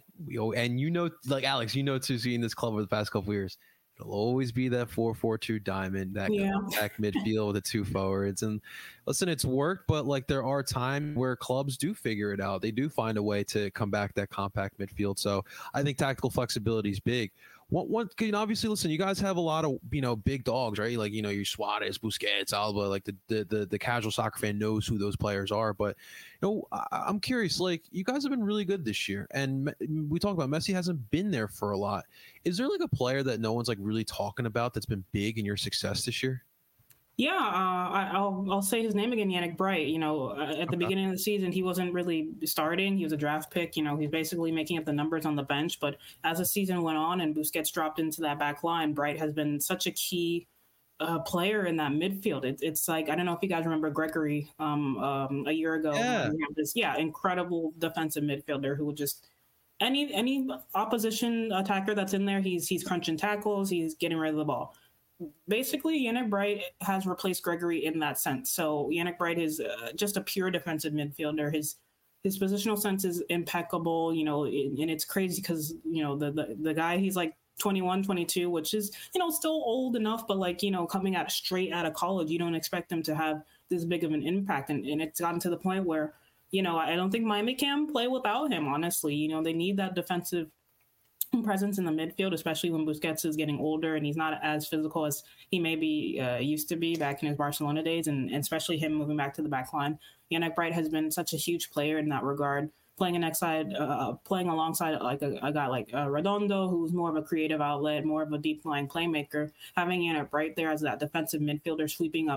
Alex, too, seeing this club over the past couple of years, it'll always be that 4-4-2 diamond, that compact midfield with the two forwards. And listen, it's worked, but there are times where clubs do figure it out. They do find a way to come back that compact midfield. So I think tactical flexibility is big. Obviously, listen, you guys have a lot of, big dogs, right? Your Suarez, Busquets, Alba, the casual soccer fan knows who those players are. But, I'm curious, you guys have been really good this year. And we talk about Messi hasn't been there for a lot. Is there a player that no one's really talking about that's been big in your success this year? Yeah, I'll say his name again, Yannick Bright. At the beginning of the season, he wasn't really starting. He was a draft pick. He's basically making up the numbers on the bench. But as the season went on and Busquets dropped into that back line, Bright has been such a key player in that midfield. It's I don't know if you guys remember Gregory a year ago. Yeah. This incredible defensive midfielder who would just any opposition attacker that's in there, he's crunching tackles, he's getting rid of the ball. Basically, Yannick Bright has replaced Gregory in that sense. So Yannick Bright is just a pure defensive midfielder. His positional sense is impeccable, and it's crazy because, the guy, he's 21, 22, which is, still old enough, but coming out straight out of college, you don't expect him to have this big of an impact. And it's gotten to the point where, I don't think Miami can play without him, honestly. They need that defensive presence in the midfield, especially when Busquets is getting older and he's not as physical as he maybe used to be back in his Barcelona days, and especially him moving back to the back line. Yannick Bright has been such a huge player in that regard, playing alongside a guy like Redondo, who's more of a creative outlet, more of a deep line playmaker. Having Yannick Bright there as that defensive midfielder sweeping up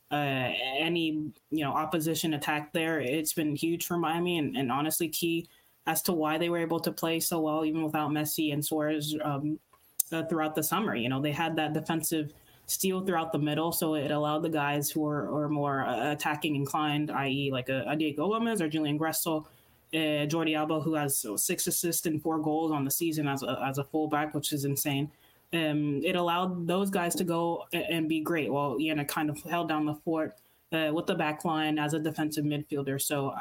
any opposition attack there. It's been huge for Miami, and honestly key as to why they were able to play so well even without Messi and Suarez throughout the summer. They had that defensive steal throughout the middle, so it allowed the guys who are more attacking inclined, i.e. like a Diego Gomez or Julian Gressel, Jordi Alba, who has 6 assists and 4 goals on the season as a fullback, which is insane. It allowed those guys to go and be great while Ian kind of held down the fort with the back line as a defensive midfielder. So,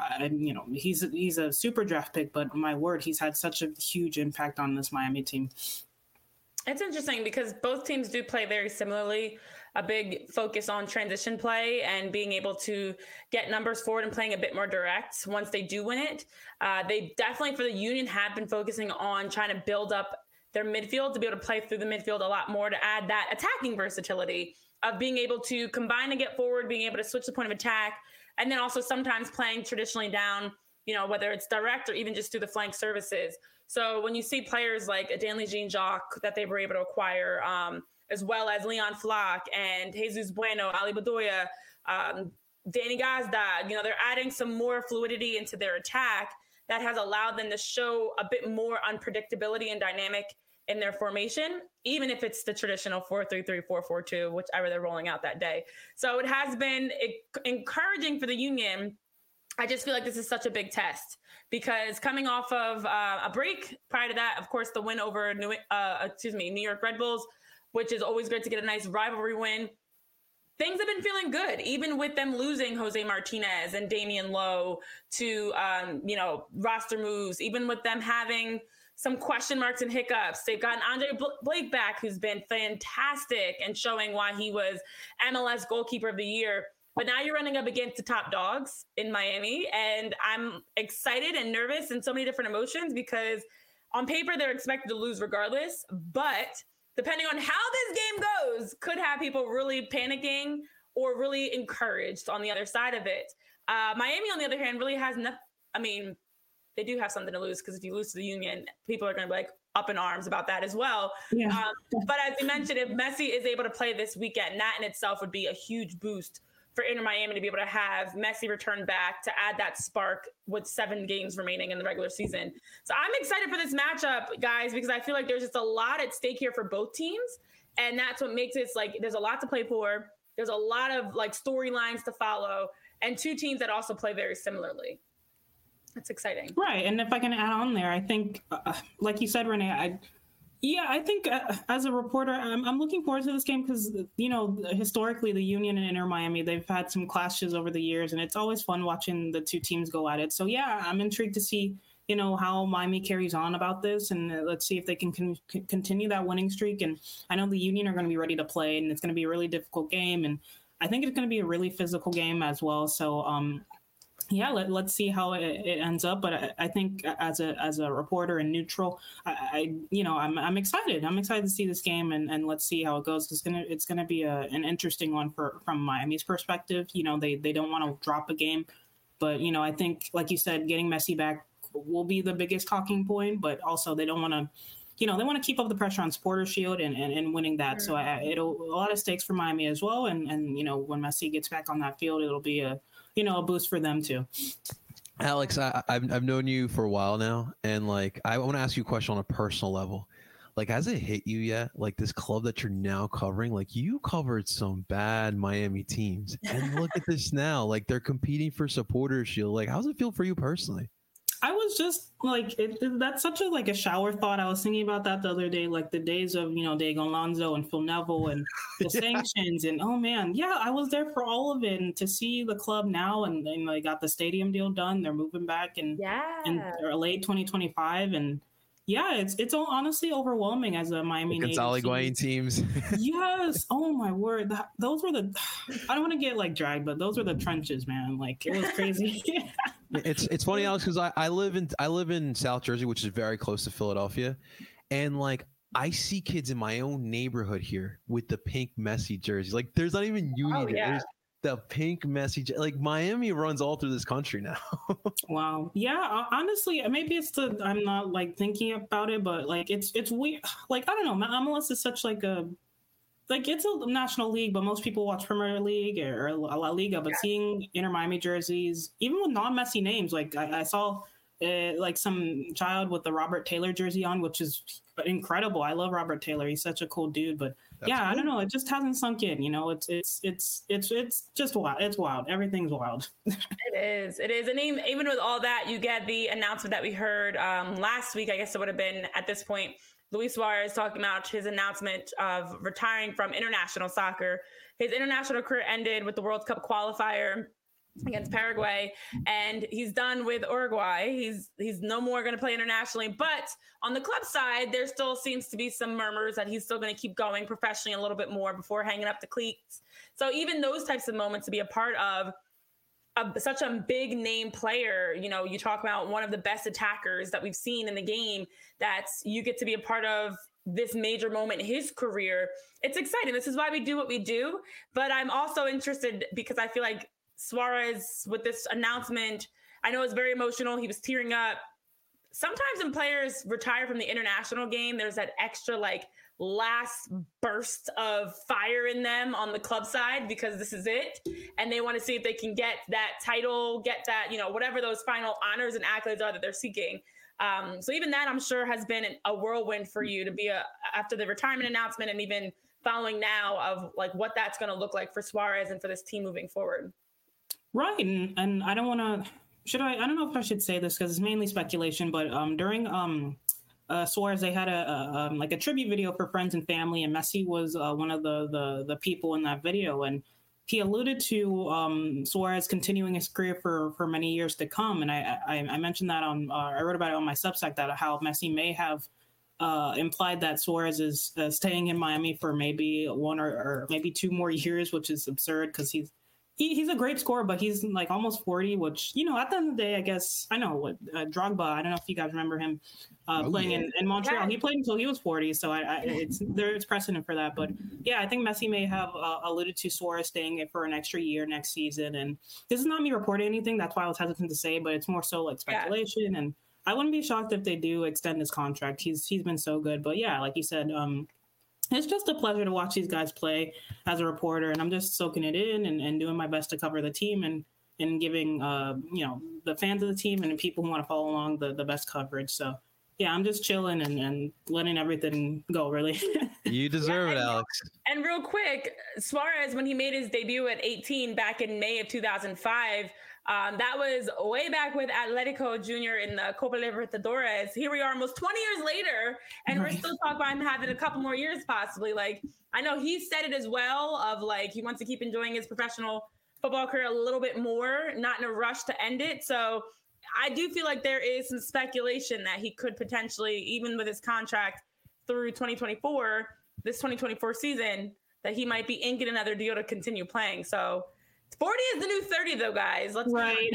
he's a super draft pick, but my word, he's had such a huge impact on this Miami team. It's interesting because both teams do play very similarly. A big focus on transition play and being able to get numbers forward and playing a bit more direct once they do win it. They definitely, for the Union, have been focusing on trying to build up their midfield to be able to play through the midfield a lot more, to add that attacking versatility of being able to combine and get forward, being able to switch the point of attack, and then also sometimes playing traditionally down, whether it's direct or even just through the flank services. So when you see players like Stanley Jean-Jacques that they were able to acquire, as well as Leon Flach and Jesus Bueno, Ali Bedoya, Danny Gazda, they're adding some more fluidity into their attack that has allowed them to show a bit more unpredictability and dynamic in their formation, even if it's the traditional 4-3-3, 4-4-2, whichever they're rolling out that day. So it has been encouraging for the Union. I just feel like this is such a big test because coming off of a break prior to that, of course, the win over New York Red Bulls, which is always great to get a nice rivalry win. Things have been feeling good, even with them losing Jose Martinez and Damian Lowe to, roster moves, even with them having some question marks and hiccups. They've gotten Andre Blake back, who's been fantastic and showing why he was MLS goalkeeper of the year. But now you're running up against the top dogs in Miami, and I'm excited and nervous and so many different emotions because on paper they're expected to lose regardless, but depending on how this game goes, could have people really panicking or really encouraged on the other side of it. Miami, on the other hand, really has nothing. I mean, they do have something to lose because if you lose to the Union, people are going to be like up in arms about that as well. Yeah. But as you mentioned, if Messi is able to play this weekend, that in itself would be a huge boost for Inter Miami to be able to have Messi return back to add that spark with 7 games remaining in the regular season. So I'm excited for this matchup, guys, because I feel like there's just a lot at stake here for both teams. And that's what makes it like there's a lot to play for. There's a lot of like storylines to follow and 2 teams that also play very similarly. That's exciting. Right. And if I can add on there, I think, like you said, Renee, I think as a reporter, I'm looking forward to this game because, historically the Union and Inter Miami, they've had some clashes over the years, and it's always fun watching the 2 teams go at it. So, yeah, I'm intrigued to see, how Miami carries on about this, and let's see if they can continue that winning streak. And I know the Union are going to be ready to play, and it's going to be a really difficult game, and I think it's going to be a really physical game as well. So, yeah, let's see how it ends up. But I think as a reporter and neutral, I'm excited. I'm excited to see this game and let's see how it goes. It's gonna be an interesting one from Miami's perspective. They don't want to drop a game, but I think like you said, getting Messi back will be the biggest talking point. But also they don't want to. They want to keep up the pressure on Supporters Shield and winning that. So it'll a lot of stakes for Miami as well. And when Messi gets back on that field, it'll be a boost for them too. Alex, I've known you for a while now, and like I want to ask you a question on a personal level. Like, has it hit you yet? Like this club that you're now covering, like you covered some bad Miami teams, and look at this now. Like they're competing for Supporters Shield. Like, how's it feel for you personally? I was just like, that's such a shower thought. I was thinking about that the other day, like the days of, Diego Alonso and Phil Neville and the sanctions. And, oh, man, yeah, I was there for all of it. And to see the club now and they got the stadium deal done. They're moving back in late 2025. And, yeah, it's honestly overwhelming as a Miami native. Gonzalo Higuain teams. Yes. Oh, my word. Those were I don't want to get like dragged, but those were the trenches, man. Like it was crazy. It's funny, Alex, because I live in South Jersey, which is very close to Philadelphia, and like I see kids in my own neighborhood here with the pink Messi jerseys. Like there's not even Union. There's the pink Messi. Like Miami runs all through this country now. Wow. Yeah. Honestly, maybe it's I'm not like thinking about it, but like it's weird. Like I don't know. MLS is such like a like it's a national league, but most people watch Premier League or La Liga. But seeing Inter Miami jerseys, even with non-Messi names, like I saw like some child with the Robert Taylor jersey on, which is incredible. I love Robert Taylor; he's such a cool dude. But That's yeah, cool. I don't know. It just hasn't sunk in. You know, it's just wild. It's wild. Everything's wild. It is. And even with all that, you get the announcement that we heard last week. I guess it would have been at this point, Luis Suarez talking about his announcement of retiring from international soccer. His international career ended with the World Cup qualifier against Paraguay, and he's done with Uruguay. He's no more going to play internationally. But on the club side, there still seems to be some murmurs that he's still going to keep going professionally a little bit more before hanging up the cleats. So even those types of moments to be a part of such a big name player, you know, you talk about one of the best attackers that we've seen in the game, that's you get to be a part of this major moment in his career. It's exciting. This is why we do what we do. But I'm also interested because I feel like Suarez, with this announcement, I know it's very emotional. He was tearing up. Sometimes when players retire from the international game, there's that extra like last burst of fire in them on the club side because this is it. And they want to see if they can get that title, get that, you know, whatever those final honors and accolades are that they're seeking. So even that, I'm sure, has been a whirlwind for you to be after the retirement announcement and even following now of like what that's going to look like for Suarez and for this team moving forward. Right. And I don't want to, I don't know if I should say this because it's mainly speculation, but during Suarez, they had a tribute video for friends and family, and Messi was one of the people in that video. And he alluded to Suarez continuing his career for many years to come. And I mentioned that I wrote about it on my Substack, that how Messi may have implied that Suarez is staying in Miami for maybe one or maybe 2 more years, which is absurd because he's a great scorer, but he's like almost 40, which, you know, at the end of the day, I guess, I know what Drogba, I don't know if you guys remember him playing in Montreal. Yeah. He played until he was 40, so there's precedent for that. But yeah, I think Messi may have alluded to Suarez staying for an extra year next season. And this is not me reporting anything. That's why I was hesitant to say, but it's more so like speculation. Yeah. And I wouldn't be shocked if they do extend his contract. He's been so good. But yeah, like you said, it's just a pleasure to watch these guys play as a reporter, and I'm just soaking it in and doing my best to cover the team and giving the fans of the team and the people who want to follow along the best coverage. So yeah, I'm just chilling and letting everything go, really. You deserve it, Alex. And real quick, Suarez, when he made his debut at 18 back in May of 2005, that was way back with Atletico Junior in the Copa Libertadores. Here we are almost 20 years later, and we're still talking about him having a couple more years possibly. Like, I know he said it as well of like he wants to keep enjoying his professional football career a little bit more, not in a rush to end it. So I do feel like there is some speculation that he could potentially, even with his contract through 2024, this 2024 season, that he might be inking another deal to continue playing. So 40 is the new 30, though, guys. Let's right.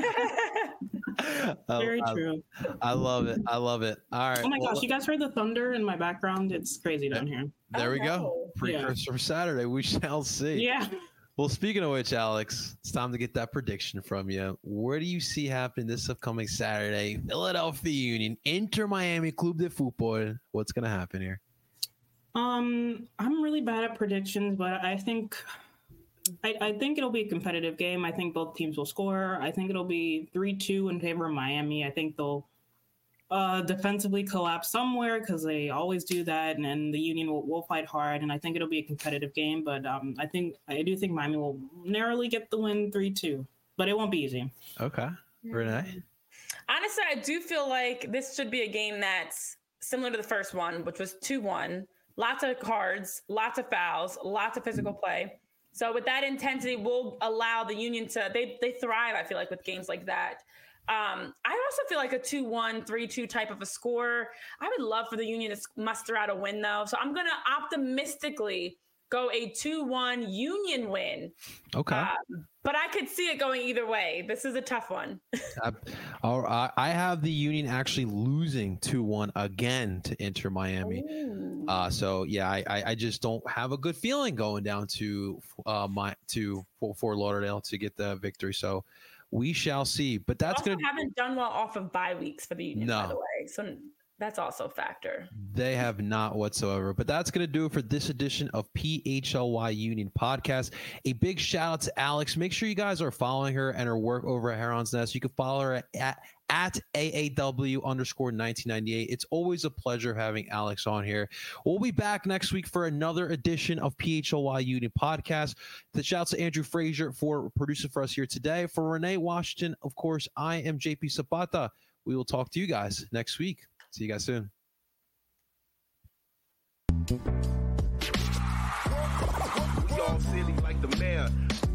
Very true. I love it. I love it. All right. Oh my gosh, you guys heard the thunder in my background? It's crazy down here. There we go. Precursor for Saturday. We shall see. Yeah. Well, speaking of which, Alex, it's time to get that prediction from you. Where do you see happening this upcoming Saturday? Philadelphia Union, Inter Miami Club de Fútbol. What's going to happen here? I'm really bad at predictions, but I think it'll be a competitive game. I think both teams will score. I think it'll be 3-2 in favor of Miami. I think they'll defensively collapse somewhere because they always do that, and then the Union will fight hard, and I think it'll be a competitive game. But I do think Miami will narrowly get the win 3-2, but it won't be easy. Okay. Renee? Honestly, I do feel like this should be a game that's similar to the first one, which was 2-1. Lots of cards, lots of fouls, lots of physical play. So with that intensity, will allow the Union to they thrive, I feel like, with games like that. I also feel like a 2-1, 3-2 type of a score. I would love for the Union to muster out a win, though. So I'm going to optimistically go a 2-1 Union win. Okay. But I could see it going either way. This is a tough one. I have the Union actually losing 2-1 again to Inter Miami. So yeah, I just don't have a good feeling going down to Fort Lauderdale to get the victory. So we shall see. But that's haven't done well off of bye weeks for the Union, by the way. So That's also a factor. They have not whatsoever. But that's going to do it for this edition of PHLY Union Podcast. A big shout out to Alex. Make sure you guys are following her and her work over at Heron's Nest. You can follow her at AAW_1998. It's always a pleasure having Alex on here. We'll be back next week for another edition of PHLY Union Podcast. The shouts to Andrew Frazier for producing for us here today. For Renee Washington, of course, I am JP Zapata. We will talk to you guys next week. See you guys soon. We all silly like the mayor.